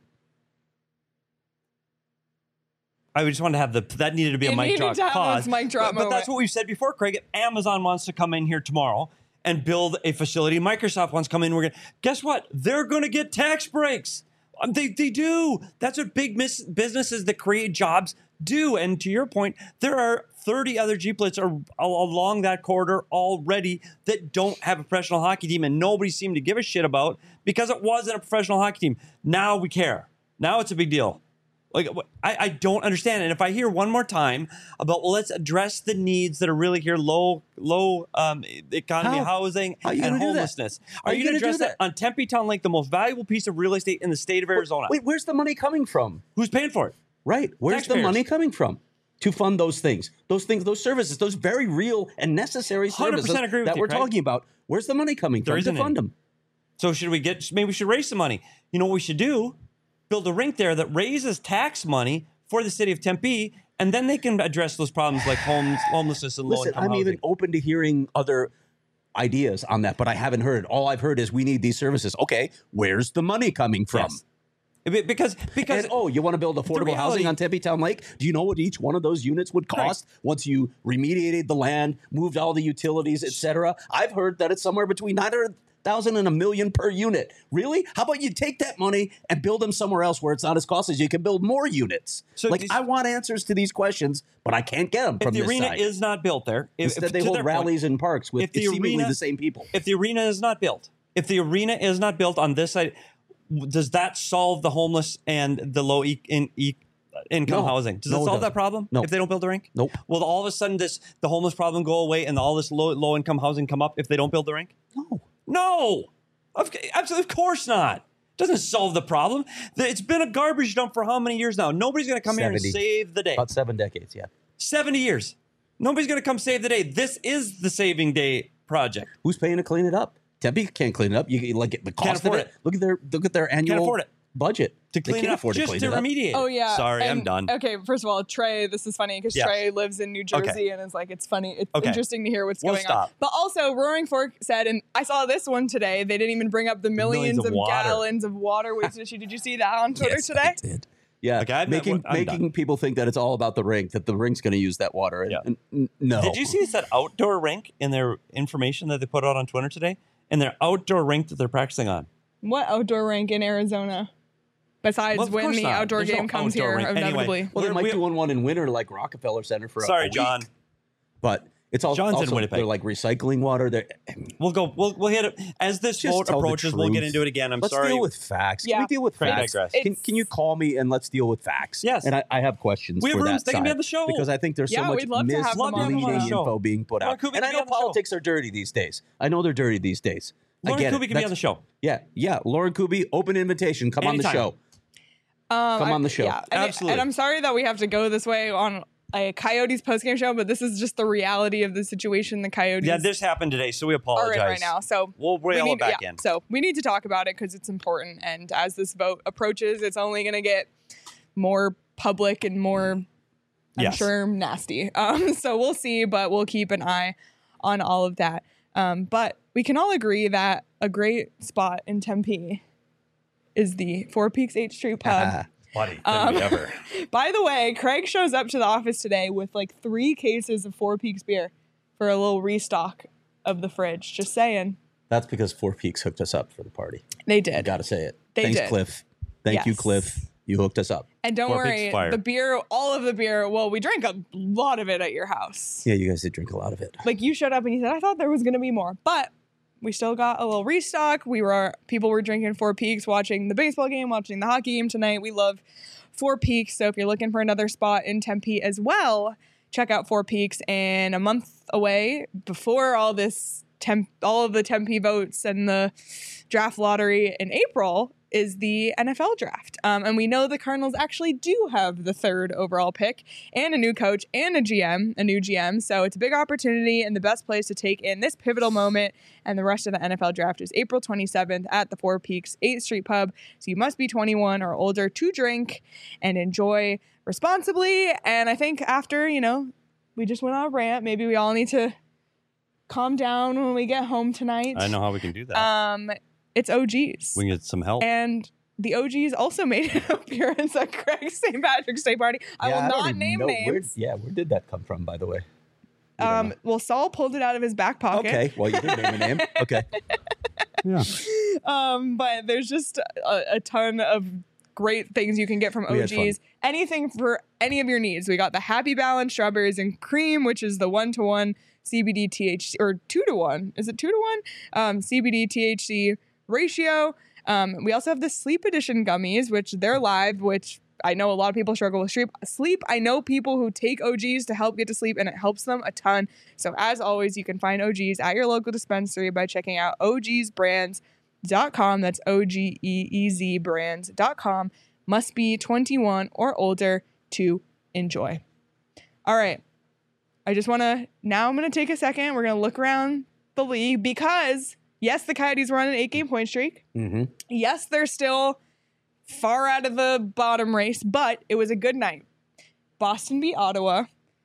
I just wanted to have that needed to be a mic needed drop to have pause. this mic drop but moment. that's what we've said before, Craig. If Amazon wants to come in here tomorrow and build a facility, Microsoft wants to come in, guess what? They're going to get tax breaks. They do. That's what big businesses that create jobs do. And to your point, there are 30 other Jeep Lits along that corridor already that don't have a professional hockey team, and nobody seemed to give a shit about because it wasn't a professional hockey team. Now we care. Now it's a big deal. Like, I don't understand. And if I hear one more time about, well, let's address the needs that are really here, low economy housing and homelessness. Are you going to address that on Tempe Town Lake, the most valuable piece of real estate in the state of Arizona? Wait, where's the money coming from? Who's paying for it? Right. Where's Taxpayers. the money coming from to fund those things, those services, those very real and necessary 100% services agree with that you, we're Craig. talking about? Where's the money coming There from to isn't fund any. them? So maybe we should raise some money. You know what we should do? Build a rink there that raises tax money for the city of Tempe, and then they can address those problems like homelessness and Listen, low-income I'm housing. even open to hearing other ideas on that, but I haven't heard. All I've heard is we need these services. Okay, where's the money coming from? Yes. Because And, you want to build affordable housing on Tempe Town Lake? Do you know what each one of those units would cost once you remediated the land, moved all the utilities, etc.? I've heard that it's somewhere between $900,000 and $1 million per unit. Really? How about you take that money and build them somewhere else where it's not as costly? You can build more units. So I want answers to these questions, but I can't get them from if the this arena side. is not built there, Instead, they hold rallies in parks with seemingly the same people. If the arena is not built, on this side, does that solve the homeless and the low income housing? Does it solve that problem? No. If they don't build the rink? Nope. Will all of a sudden the homeless problem go away and all this low income housing come up if they don't build the rink? No. Absolutely, of course not. Doesn't solve the problem. It's been a garbage dump for how many years now? Nobody's going to come here and save the day. About 7 decades, 70 years. Nobody's going to come save the day. This is the saving day project. Who's paying to clean it up? Tempe can't clean it up. You like the cost of afford it. Look at their annual afford it. budget To clean it up, just to remediate. Oh yeah. Sorry, I'm And, done. Okay, first of all, Trey, this is funny because Yes. Trey lives in New Jersey Okay. and it's like it's funny. It's Okay. interesting to hear what's We'll going on. stop. But also, Roaring Fork said, and I saw this one today. They didn't even bring up the millions of of water. gallons of water wasted. Did you see that on Twitter today? did. Yeah, Okay, I'm making done. people think that it's all about the rink, that the rink's going to use that water. And, Yeah. and no. Did you see that outdoor rink in their information that they put out on Twitter today? And their outdoor rink that they're practicing on. What outdoor rink in Arizona? Besides Well, of when course the not. outdoor There's no game comes outdoor here, rink. Anyway, inevitably. Well, they might we- do one in winter like Rockefeller Center for a Sorry, week. John. But it's also, John's in Winnipeg. they're like recycling water. We'll hit it as this Just vote tell the approaches. We'll get truth. into it again. Let's sorry. deal with facts. Yeah. Can we deal with Craig facts? digress. Can you call me and let's deal with facts? Yes. And I have questions We have for rooms. that They can be side on the show. because I think there's so Yeah, much we'd love to have them on the misleading show. info being put Lauren out. Kuby And I can be know on the show. politics are dirty these days. I know they're dirty these days. I Lauren get Kuby it. can be on the show. Yeah. Lauren Kuby, open invitation. Come on the Anytime. show. Come on the show. Yeah, and Absolutely. And I'm sorry that we have to go this way on a Coyotes postgame show, but this is just the reality of the situation. The Coyotes Yeah, this happened today, so we are apologize. in right now. So We'll rail we it need, back in. So we need to talk about it because it's important. And as this vote approaches, it's only going to get more public and more, I'm Yes. sure, nasty. So we'll see, but we'll keep an eye on all of that. But we can all agree that a great spot in Tempe is the Four Peaks 8th Street Pub. Buddy, than we ever. By the way, Craig shows up to the office today with like 3 cases of Four Peaks beer for a little restock of the fridge. Just saying. That's because Four Peaks hooked us up for the party. They I did. gotta say it. They Thanks, did. Cliff. Thank you, Yes. Cliff. You hooked us up. And don't Four Peaks worry, fire. the beer, all of the beer, well, we drank a lot of it at your house. Yeah, you guys did drink a lot of it. Like you showed up and you said, I thought there was going to be more. But we still got a little restock. People were drinking Four Peaks, watching the baseball game, watching the hockey game tonight. We love Four Peaks. So if you're looking for another spot in Tempe as well, check out Four Peaks. And a month away, before all of the Tempe votes and the draft lottery in April, is the NFL draft. And we know the Cardinals actually do have the 3rd overall pick and a new coach and a new GM. So it's a big opportunity, and the best place to take in this pivotal moment and the rest of the NFL draft is April 27th at the Four Peaks 8th Street Pub. So you must be 21 or older to drink and enjoy responsibly. And I think after, we just went on a rant, maybe we all need to calm down when we get home tonight. I know how we can do that. It's OGs. We can get some help. And the OGs also made an appearance at Craig's St. Patrick's Day party. I will not name names. Where did that come from, by the way? Well, Saul pulled it out of his back pocket. Okay, well, you did name a name. Okay. Yeah. But there's just a ton of great things you can get from We had fun. OGs. Anything for any of your needs. We got the Happy Balance strawberries and cream, which is the 1-to-1 CBD THC, or 2-to-1. Is it 2-to-1? CBD THC ratio. We also have the Sleep Edition gummies, which they're live, which I know a lot of people struggle with sleep. I know people who take OGs to help get to sleep, and it helps them a ton. So as always, you can find OGs at your local dispensary by checking out ogsbrands.com. That's OGEEZ brands.com. Must be 21 or older to enjoy. All right. I'm going to take a second. We're going to look around the league because yes, the Coyotes were on an 8-game point streak. Mm-hmm. Yes, they're still far out of the bottom race, but it was a good night. Boston beat Ottawa.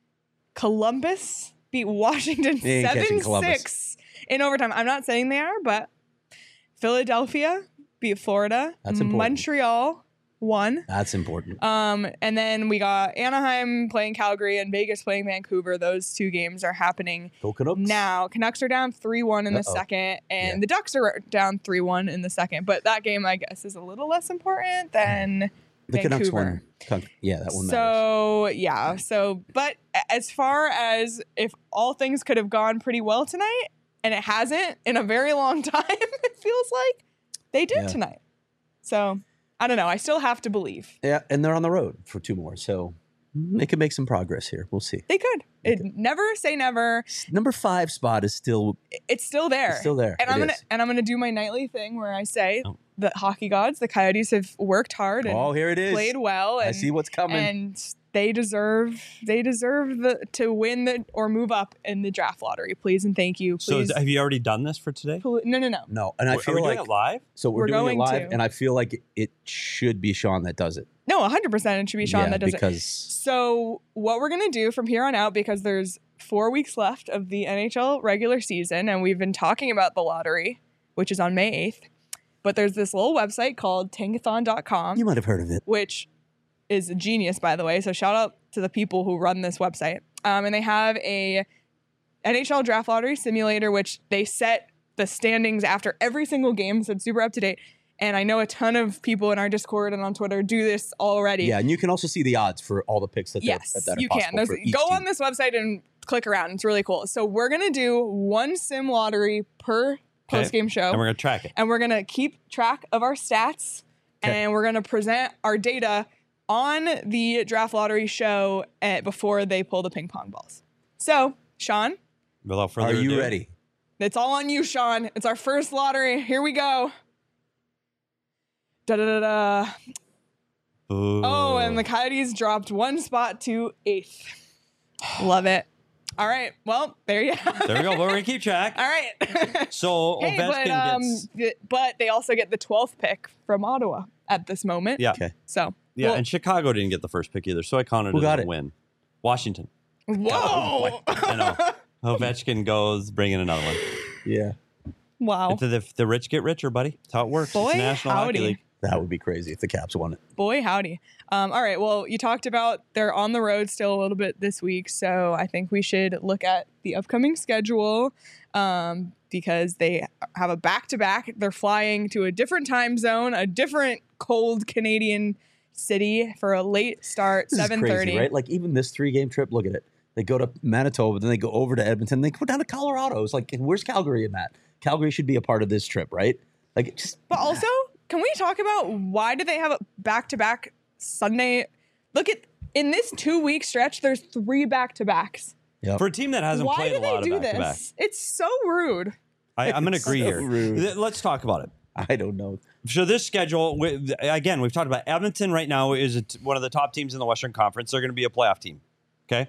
Columbus beat Washington They ain't catching 7-6 Columbus. in overtime. I'm not saying they are, but Philadelphia beat Florida. That's important. Montreal won. That's important. And then we got Anaheim playing Calgary and Vegas playing Vancouver. Those 2 games are happening Go Canucks. now. Canucks are down 3-1 in the second, and the Ducks are down 3-1 in the second. But that game, I guess, is a little less important than The Canucks Vancouver. won. Yeah, that one matters. So, yeah. But as far as if all things could have gone pretty well tonight, and it hasn't in a very long time, it feels like they did tonight. So, I don't know. I still have to believe. Yeah, and they're on the road for 2 more, so they could make some progress here. We'll see. They could. Never say never. Number 5 spot is still It's still there. It's still there. And It I'm gonna do my nightly thing where I say the hockey gods, the Coyotes, have worked hard and here it is. played well. And, I see what's coming. And they deserve to win or move up in the draft lottery. Please and thank you. Please. So have you already done this for today? No. No, and I Are feel we like doing it live? so we're doing it going live, to. and I feel like it should be Sean that does it. No, 100% it should be Sean Yeah, that does because- it. So what we're going to do from here on out, because there's 4 weeks left of the NHL regular season, and we've been talking about the lottery, which is on May 8th, but there's this little website called tankathon.com, You might have heard of it. which is a genius, by the way. So shout out to the people who run this website. And they have a NHL draft lottery simulator, which they set the standings after every single game. So it's super up to date. And I know a ton of people in our Discord and on Twitter do this already. Yeah, and you can also see the odds for all the picks that Yes, that are you possible can. for each Go team. on this website and click around. It's really cool. So we're going to do one sim lottery per post-game show. And we're going to track it. And we're going to keep track of our stats. And we're going to present our data on the draft lottery show before they pull the ping pong balls. So, Sean, Without further Are you ado, ready? it's all on you, Sean. It's our first lottery. Here we go. Da-da-da-da. Ooh. Oh, and the Coyotes dropped 1 spot to 8th. Love it. All right. Well, there you have There we it. go. We're going to keep track. All right. So Hey, Ovechkin gets... but they also get the 12th pick from Ottawa at this moment. Yeah. Okay. So, Yeah, well- and Chicago didn't get the first pick either, so I counted Who it got as a it? win. Washington. whoa. I know. Ovechkin goes, bring in another one. Yeah. Wow. The rich get richer, buddy. That's how it works. Boy, It's the National howdy. Hockey League. That would be crazy if the Caps won it. Boy, howdy. All right. Well, you talked about they're on the road still a little bit this week. So I think we should look at the upcoming schedule because they have a back-to-back. They're flying to a different time zone, a different cold Canadian city for a late start, This is 7:30. crazy, right? Like even this 3-game trip, look at it. They go to Manitoba, then they go over to Edmonton, they go down to Colorado. It's like, where's Calgary in that? Calgary should be a part of this trip, right? Like, it just. But also, can we talk about why do they have a back-to-back Sunday? Look at, in this 2-week stretch, there's 3 back-to-backs. Yep. For a team that hasn't Why played do a they lot do of back-to-back. this? It's so rude. I'm going to agree So here. rude. Let's talk about it. I don't know. So this schedule, again, we've talked about Edmonton right now is one of the top teams in the Western Conference. They're going to be a playoff team. Okay.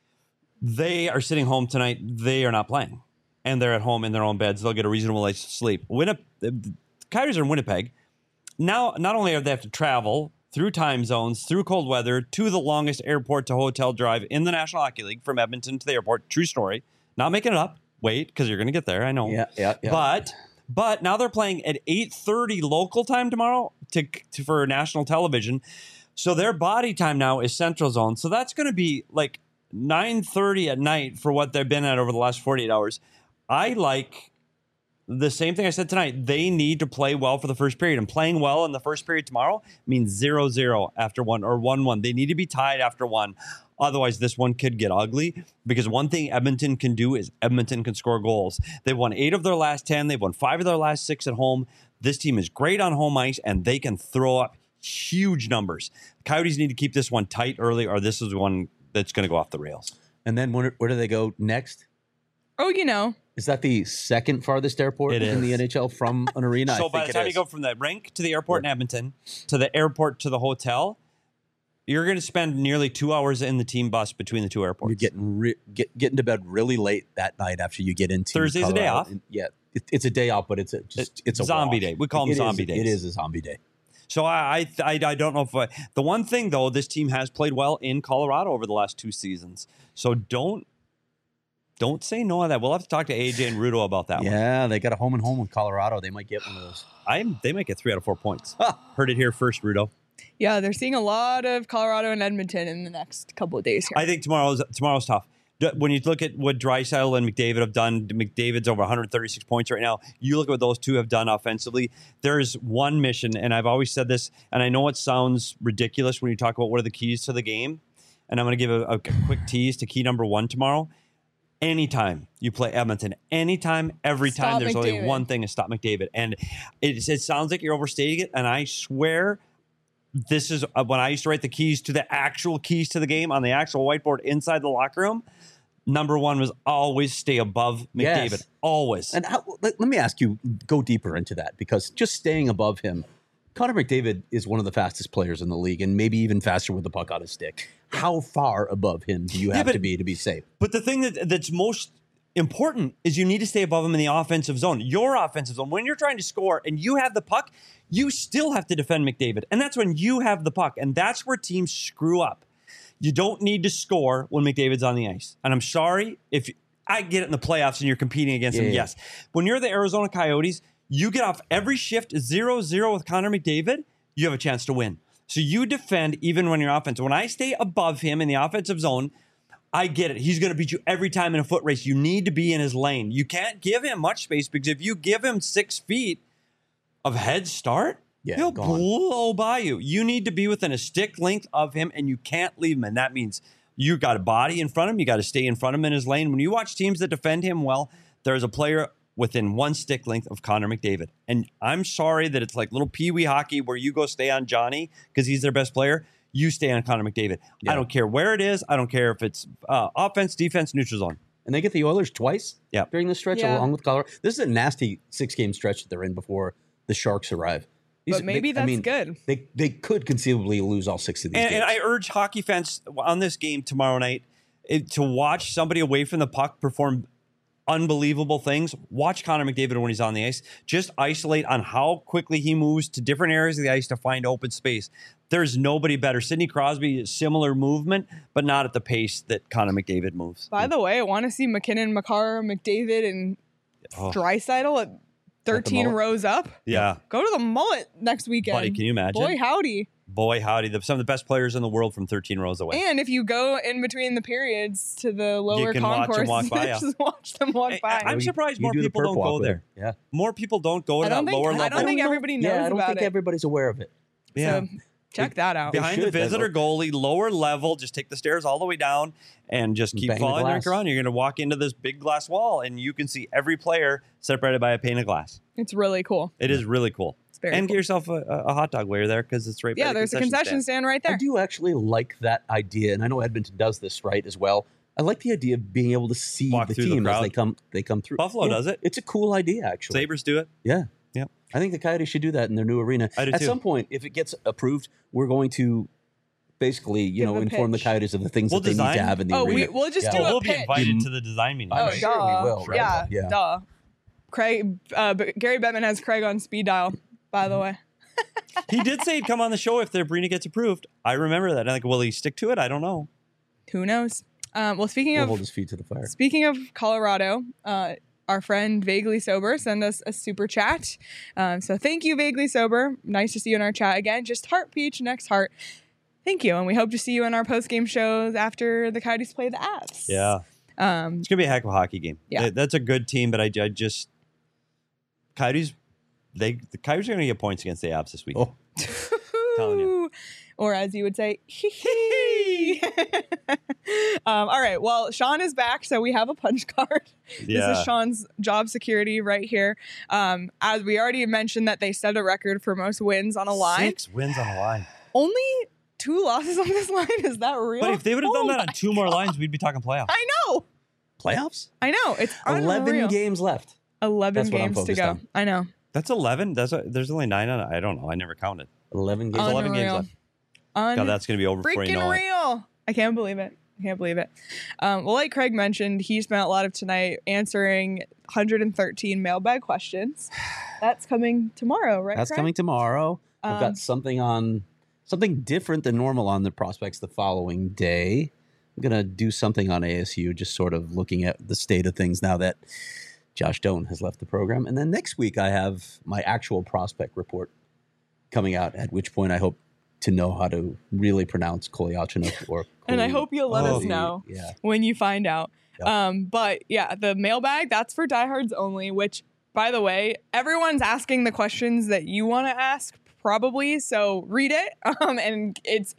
They are sitting home tonight. They are not playing. And they're at home in their own beds. They'll get a reasonable night's sleep. The Coyotes are in Winnipeg. Now, not only have they have to travel through time zones, through cold weather, to the longest airport to hotel drive in the National Hockey League from Edmonton to the airport. True story. Not making it up. Wait, because you're going to get there. I know. Yeah. But now they're playing at 8:30 local time tomorrow for national television. So their body time now is Central Zone. So that's going to be like 9:30 at night for what they've been at over the last 48 hours. I like the same thing I said tonight. They need to play well for the first period. And playing well in the first period tomorrow means 0-0 after 1 or 1-1. They need to be tied after 1. Otherwise, this one could get ugly because one thing Edmonton can do is Edmonton can score goals. They've won 8 of their last 10. They've won 5 of their last 6 at home. This team is great on home ice, and they can throw up huge numbers. Coyotes need to keep this one tight early, or this is one that's going to go off the rails. And then where do they go next? Oh, you know. Is that the second farthest airport It in the is. NHL from an arena? So I by think the time it you is. go from the rink to the airport in Edmonton to the airport to the hotel, you're going to spend nearly 2 hours in the team bus between the two airports. You're getting to bed really late that night after you get into Thursday's a day Colorado. off. And it's a day off, but it's a zombie wash. day. We call them It is- zombie days. It is a zombie day. So I don't know if the one thing though, this team has played well in Colorado over the last 2 seasons. So don't say no on that. We'll have to talk to AJ and Rudo about that one. Yeah, they got a home and home with Colorado. They might get one of those. They might get 3 out of 4 points. Heard it here first, Rudo. Yeah, they're seeing a lot of Colorado and Edmonton in the next couple of days here. I think tomorrow's tough. When you look at what Draisaitl and McDavid have done, McDavid's over 136 points right now. You look at what those two have done offensively. There's one mission, and I've always said this, and I know it sounds ridiculous when you talk about what are the keys to the game, and I'm going to give a quick tease to key number 1 tomorrow. Anytime you play Edmonton, anytime, every time, Stop there's only McDavid. one thing to stop McDavid. And it sounds like you're overstating it, and I swear this is when I used to write the keys to the actual keys to the game on the actual whiteboard inside the locker room. Number 1 was always stay above McDavid. Yes. Always. And let me ask you, go deeper into that, because just staying above him, Connor McDavid is one of the fastest players in the league, and maybe even faster with the puck on his stick. How far above him do you have to be safe? But the thing that's most important is you need to stay above him in the offensive zone. Your offensive zone. When you're trying to score and you have the puck, you still have to defend McDavid. And that's when you have the puck. And that's where teams screw up. You don't need to score when McDavid's on the ice. And I'm sorry if I get it in the playoffs and you're competing against him. Yeah. Yes. When you're the Arizona Coyotes, you get off every shift 0-0 with Connor McDavid, you have a chance to win. So you defend even when you're offensive. When I stay above him in the offensive zone, I get it. He's going to beat you every time in a foot race. You need to be in his lane. You can't give him much space because if you give him 6 feet of head start, he'll gone. blow by you. You need to be within a stick length of him, and you can't leave him. And that means you got a body in front of him. You got to stay in front of him in his lane. When you watch teams that defend him well, there's a player within 1 stick length of Connor McDavid. And I'm sorry that it's like little peewee hockey where you go stay on Johnny because he's their best player. You stay on Connor McDavid. Yeah. I don't care where it is. I don't care if it's offense, defense, neutral zone. And they get the Oilers twice Yeah. during the stretch, Yeah. along with Colorado. This is a nasty 6-game stretch that they're in before the Sharks arrive. But maybe that's good. They could conceivably lose all 6 of these games. And I urge hockey fans on this game tomorrow night to watch somebody away from the puck perform unbelievable things. Watch Connor McDavid when he's on the ice. Just isolate on how quickly he moves to different areas of the ice to find open space. There's nobody better. Sidney Crosby, similar movement, but not at the pace that Connor McDavid moves. By the way, I want to see McKinnon, Makar, McDavid, and Oh. Draisaitl at 13 mullet? rows up. Yeah. Go to the mullet next weekend. Buddy, can you imagine? Boy, howdy. Boy, howdy. Some of the best players in the world from 13 rows away. And if you go in between the periods to the lower can watch them concourse, walk by, yeah. just watch them walk by. I'm surprised more You do the people perp don't walk go with there. it. Yeah. More people don't go to that lower I level. don't think everybody knows Yeah, I don't about think it. everybody's aware of it. Yeah. So check that out. Behind the should, visitor goalie, lower level, just take the stairs all the way down and just keep Bang the following glass. around. You're going to walk into this big glass wall and you can see every player separated by a pane of glass. It's really cool. It is really cool. It's very And cool. get yourself a hot dog while you're there because it's right by Yeah, the there's a concession stand right I there. do actually like that idea, and I know Edmonton does this right as well. I like the idea of being able to see Walk the through the team as crowd. they come through. Buffalo does it. It's a cool idea, actually. Sabres do it. Yeah. Yep. I think the Coyotes should do that in their new arena. I do At too. some point, if it gets approved, we're going to basically, Give a inform the pitch. Coyotes of the things We'll that they need design- to have in the Oh, arena. we'll just Yeah. do We'll a be pitch. invited to the design meeting. I'm Oh, sure duh. we will, right? Yeah, Yeah. duh. Craig, but Gary Bettman has Craig on speed dial, by the way. He did say he'd come on the show if the arena gets approved. I remember that. I'm like, will he stick to it? I don't know. Who knows? Well, speaking We'll of hold his feet to the fire. Speaking of Colorado, our friend Vaguely Sober sent us a super chat. So thank you, Vaguely Sober. Nice to see you in our chat again. Just heart peach, next heart. Thank you. And we hope to see you in our post-game shows after the Coyotes play the Avs. Yeah. It's going to be a heck of a hockey game. Yeah. That's a good team, but I just Coyotes, the Coyotes are going to get points against the Avs this week. Oh, Telling you. Or as you would say, hee hee. All right. Well, Sean is back, so we have a punch card. Yeah. This is Sean's job security right here. As we already mentioned that they set a record for most wins on a line. 6 wins on a line. Only 2 losses on this line? Is that real? But if they would have done Oh that on my 2 more God. lines, we'd be talking playoffs. I know. playoffs? I know. It's 11 unreal. games left. 11 That's what I'm games to focused go. on. I know. That's 11. There's only 9 on it. I don't know. I never counted. 11 games. There's 11 games Unreal. left. God, that's going to be over before you Freaking know it. real. I can't believe it. Well, like Craig mentioned, he spent a lot of tonight answering 113 mailbag questions. That's coming tomorrow, right? That's Craig? coming tomorrow. I've Um, got something different than normal on the prospects the following day. I'm going to do something on ASU, just sort of looking at the state of things now that Josh Doan has left the program. And then next week, I have my actual prospect report coming out, at which point I hope to know how to really pronounce Kolyachinoff or And I hope you'll let us Koly- know Yeah. when you find out. Yep. But yeah, the mailbag, that's for diehards only, which, by the way, everyone's asking the questions that you want to ask, probably. So read it. And it's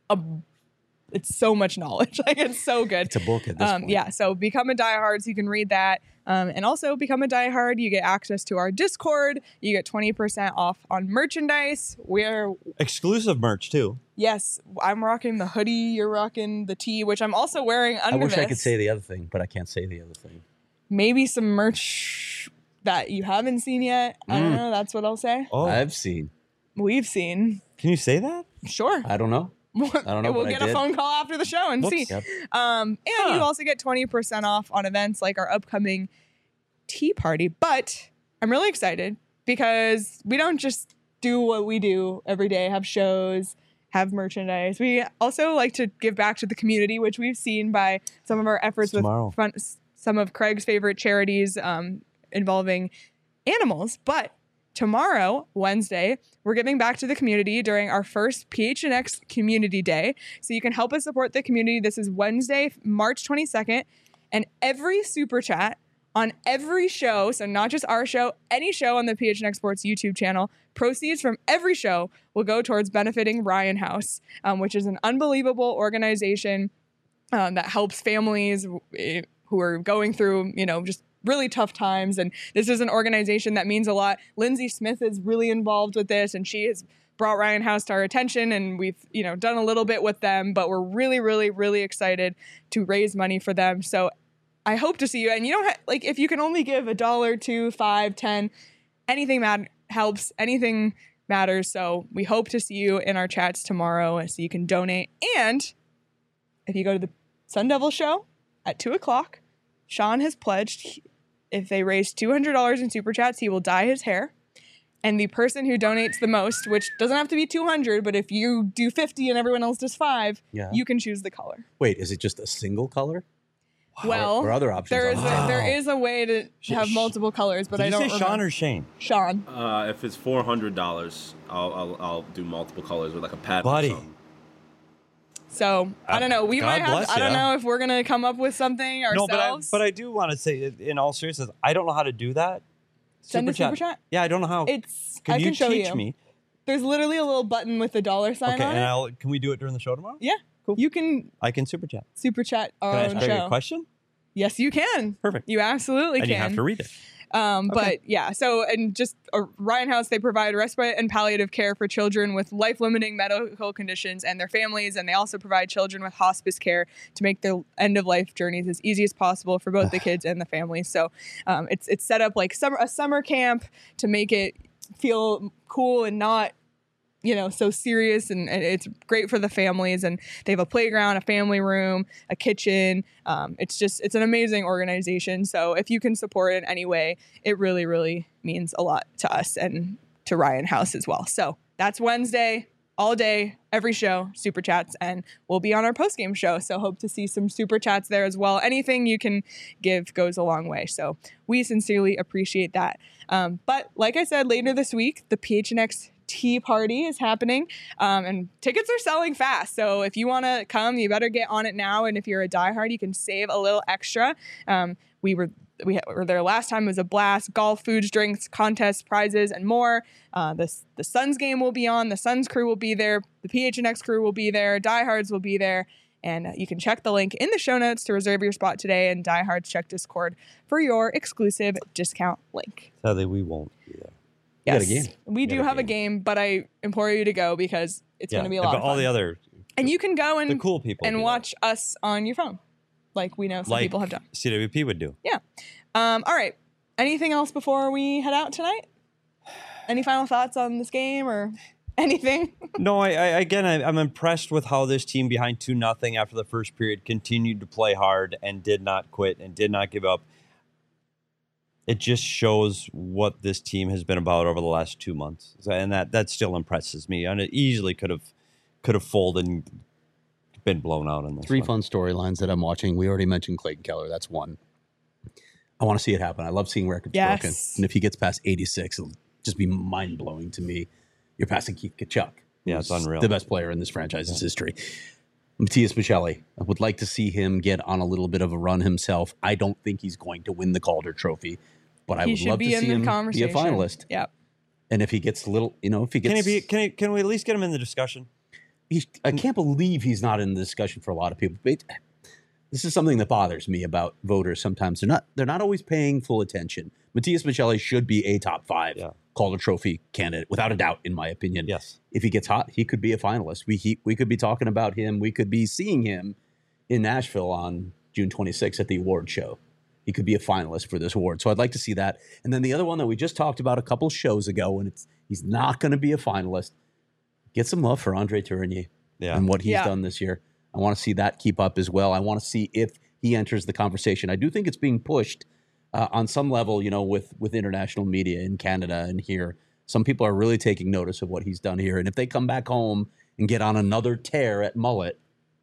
so much knowledge. Like, it's so good. It's a book at this point. Yeah, so become a diehard so you can read that. And also become a diehard, you get access to our Discord. You get 20% off on merchandise. Exclusive merch, too. Yes, I'm rocking the hoodie. You're rocking the tee, which I'm also wearing under I wish I could this. say the other thing, but I can't say the other thing. Maybe some merch that you haven't seen yet. I don't know. That's what I'll say. Oh, I've seen. We've seen. can you say that? Sure. I don't know. don't know, We'll but I get a did. phone call after the show and Whoops. see. Yep. And you also get 20% off on events like our upcoming tea party. But I'm really excited because we don't just do what we do every day, have shows, have merchandise. We also like to give back to the community, which we've seen by some of our efforts with Tomorrow. some of Craig's favorite charities involving animals. But tomorrow, Wednesday, we're giving back to the community during our first PHNX Community Day. So you can help us support the community. This is Wednesday, March 22nd. And every super chat on every show, so not just our show, any show on the PHNX Sports YouTube channel, proceeds from every show will go towards benefiting Ryan House, which is an unbelievable organization that helps families who are going through, just really tough times. And this is an organization that means a lot. Lindsay Smith is really involved with this, and she has brought Ryan House to our attention, and we've, done a little bit with them, but we're really, really, really excited to raise money for them. So I hope to see you. And you don't if you can only give $1, $2, $5, $10, anything helps, anything matters. So we hope to see you in our chats tomorrow so you can donate. And if you go to the Sun Devil show at 2:00, Sean has pledged if they raise $200 in super chats, he will dye his hair. And the person who donates the most, which doesn't have to be 200, but if you do 50 and everyone else does 5, Yeah. you can choose the color. Wait, is it just a single color? Well, or other options. there is a way to have multiple colors, but Did I don't you say remember. Sean or Shane? Sean. If it's $400, I'll do multiple colors with like a pad. Buddy. So I don't know. We God might have. bless I don't ya. know if we're gonna come up with something ourselves. No, but I do want to say, in all seriousness, I don't know how to do that. Send a super chat? Yeah, I don't know how. I you can show teach you. me? There's literally a little button with the dollar sign Okay, on and it. can we do it during the show tomorrow? Yeah, Cool. You can I can super chat. super chat our Can I own ask Greg show. a question? Yes, you can. Perfect. You absolutely And can. you have to read it. But yeah, so and just Ryan House, they provide respite and palliative care for children with life-limiting medical conditions and their families, and they also provide children with hospice care to make their end-of-life journeys as easy as possible for both the kids and the families. So it's set up like a summer camp to make it feel cool and not so serious, and it's great for the families. And they have a playground, a family room, a kitchen. It's an amazing organization. So if you can support it in any way, it really, really means a lot to us and to Ryan House as well. So that's Wednesday, all day, every show, super chats, and we'll be on our post-game show. So hope to see some super chats there as well. Anything you can give goes a long way. So we sincerely appreciate that. But like I said, later this week, the PHNX Tea Party is happening, and tickets are selling fast. So if you want to come, you better get on it now. And if you're a diehard, you can save a little extra. We were there last time. It was a blast. Golf, foods, drinks, contests, prizes, and more. The Suns game will be on. The Suns crew will be there. The PHNX crew will be there. Diehards will be there. And you can check the link in the show notes to reserve your spot today. And Diehards, check Discord for your exclusive discount link. Sadly, we won't be there. Yes, got a game. we do have a game, but I implore you to go because it's going to be a lot but of fun. all the other And you can go the and cool people and do watch us on your phone, like we know some people have done. CWP would do. Yeah. All right. Anything else before we head out tonight? Any final thoughts on this game or anything? No, I'm impressed with how this team behind 2-0 after the first period continued to play hard and did not quit and did not give up. It just shows what this team has been about over the last 2 months, and that still impresses me. And it easily could have folded and been blown out in this. Three one. fun storylines that I'm watching. We already mentioned Clayton Keller. That's one. I want to see it happen. I love seeing records broken. And if he gets past 86, it'll just be mind blowing to me. You're passing Keith Kachuk. Yeah, it's unreal. The best player in this franchise's history. Matthias Michelli. I would like to see him get on a little bit of a run himself. I don't think he's going to win the Calder Trophy, but I would love to see him be a finalist. Yep. And if he gets a little, if he gets, can we at least get him in the discussion? I can't believe he's not in the discussion for a lot of people. But this is something that bothers me about voters. Sometimes they're not always paying full attention. Matthias Michelli should be a top 5 Calder Trophy candidate, without a doubt, in my opinion. Yes. If he gets hot, he could be a finalist. We could be talking about him. We could be seeing him in Nashville on June 26th at the award show. He could be a finalist for this award. So I'd like to see that. And then the other one that we just talked about a couple shows ago, and he's not going to be a finalist. Get some love for Andre Tourigny and what he's done this year. I want to see that keep up as well. I want to see if he enters the conversation. I do think it's being pushed on some level, with international media in Canada and here. Some people are really taking notice of what he's done here. And if they come back home and get on another tear at mullet,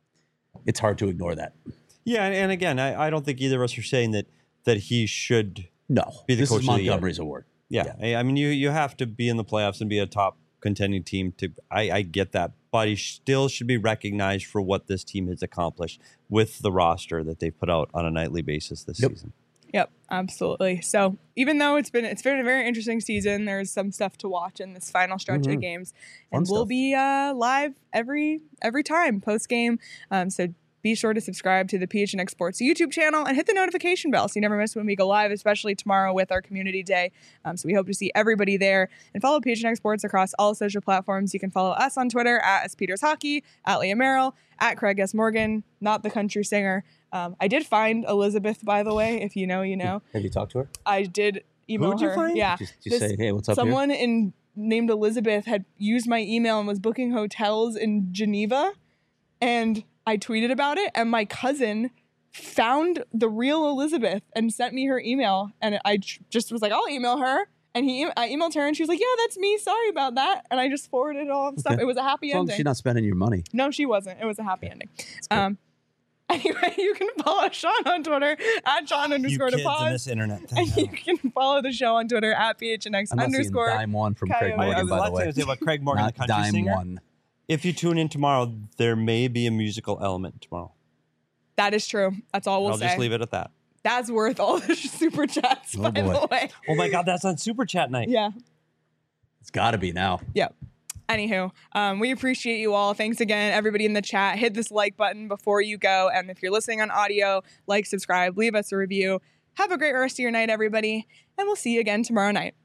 it's hard to ignore that. Yeah, and again, I don't think either of us are saying that he should be the coach of the year. This is Montgomery's award. Yeah. I mean, you have to be in the playoffs and be a top contending team. I get that, but he still should be recognized for what this team has accomplished with the roster that they've put out on a nightly basis this season. Yep, absolutely. So even though it's been a very interesting season, there's some stuff to watch in this final stretch of games, and we'll be live every time post game. So be sure to subscribe to the PHNX Sports YouTube channel and hit the notification bell so you never miss when we go live, especially tomorrow with our community day. So we hope to see everybody there. And follow PHNX Sports across all social platforms. You can follow us on Twitter at @SPetersHockey, at Leah Merrill, at Craig S. Morgan, not the country singer. I did find Elizabeth, by the way. If you know, you know. Have you talked to her? I did email her. Who'd you find? Yeah. Did you say, hey, what's up Someone here? named Elizabeth had used my email and was booking hotels in Geneva. And I tweeted about it, and my cousin found the real Elizabeth and sent me her email. And I just was like, I'll email her. And I emailed her, and she was like, yeah, that's me. Sorry about that. And I just forwarded all the stuff. It was a happy As long ending. as she's not spending your money. No, she wasn't. It was a happy ending. Anyway, you can follow Sean on Twitter at Sean You _to kids in pause. this internet And thing. you can follow the show on Twitter at PHNX I'm not seeing _ dime one from Craig Coyote. Morgan, the by last the thing I way. would say about Craig Morgan, the Not country dime singer. one. If you tune in tomorrow, there may be a musical element tomorrow. That is true. That's all we'll I'll say. just leave it at that. That's worth all the super chats, Oh, by boy. the way. Oh my God, that's on Super Chat night. Yeah. It's got to be now. Yep. Anywho, we appreciate you all. Thanks again, everybody in the chat. Hit this like button before you go. And if you're listening on audio, like, subscribe, leave us a review. Have a great rest of your night, everybody. And we'll see you again tomorrow night.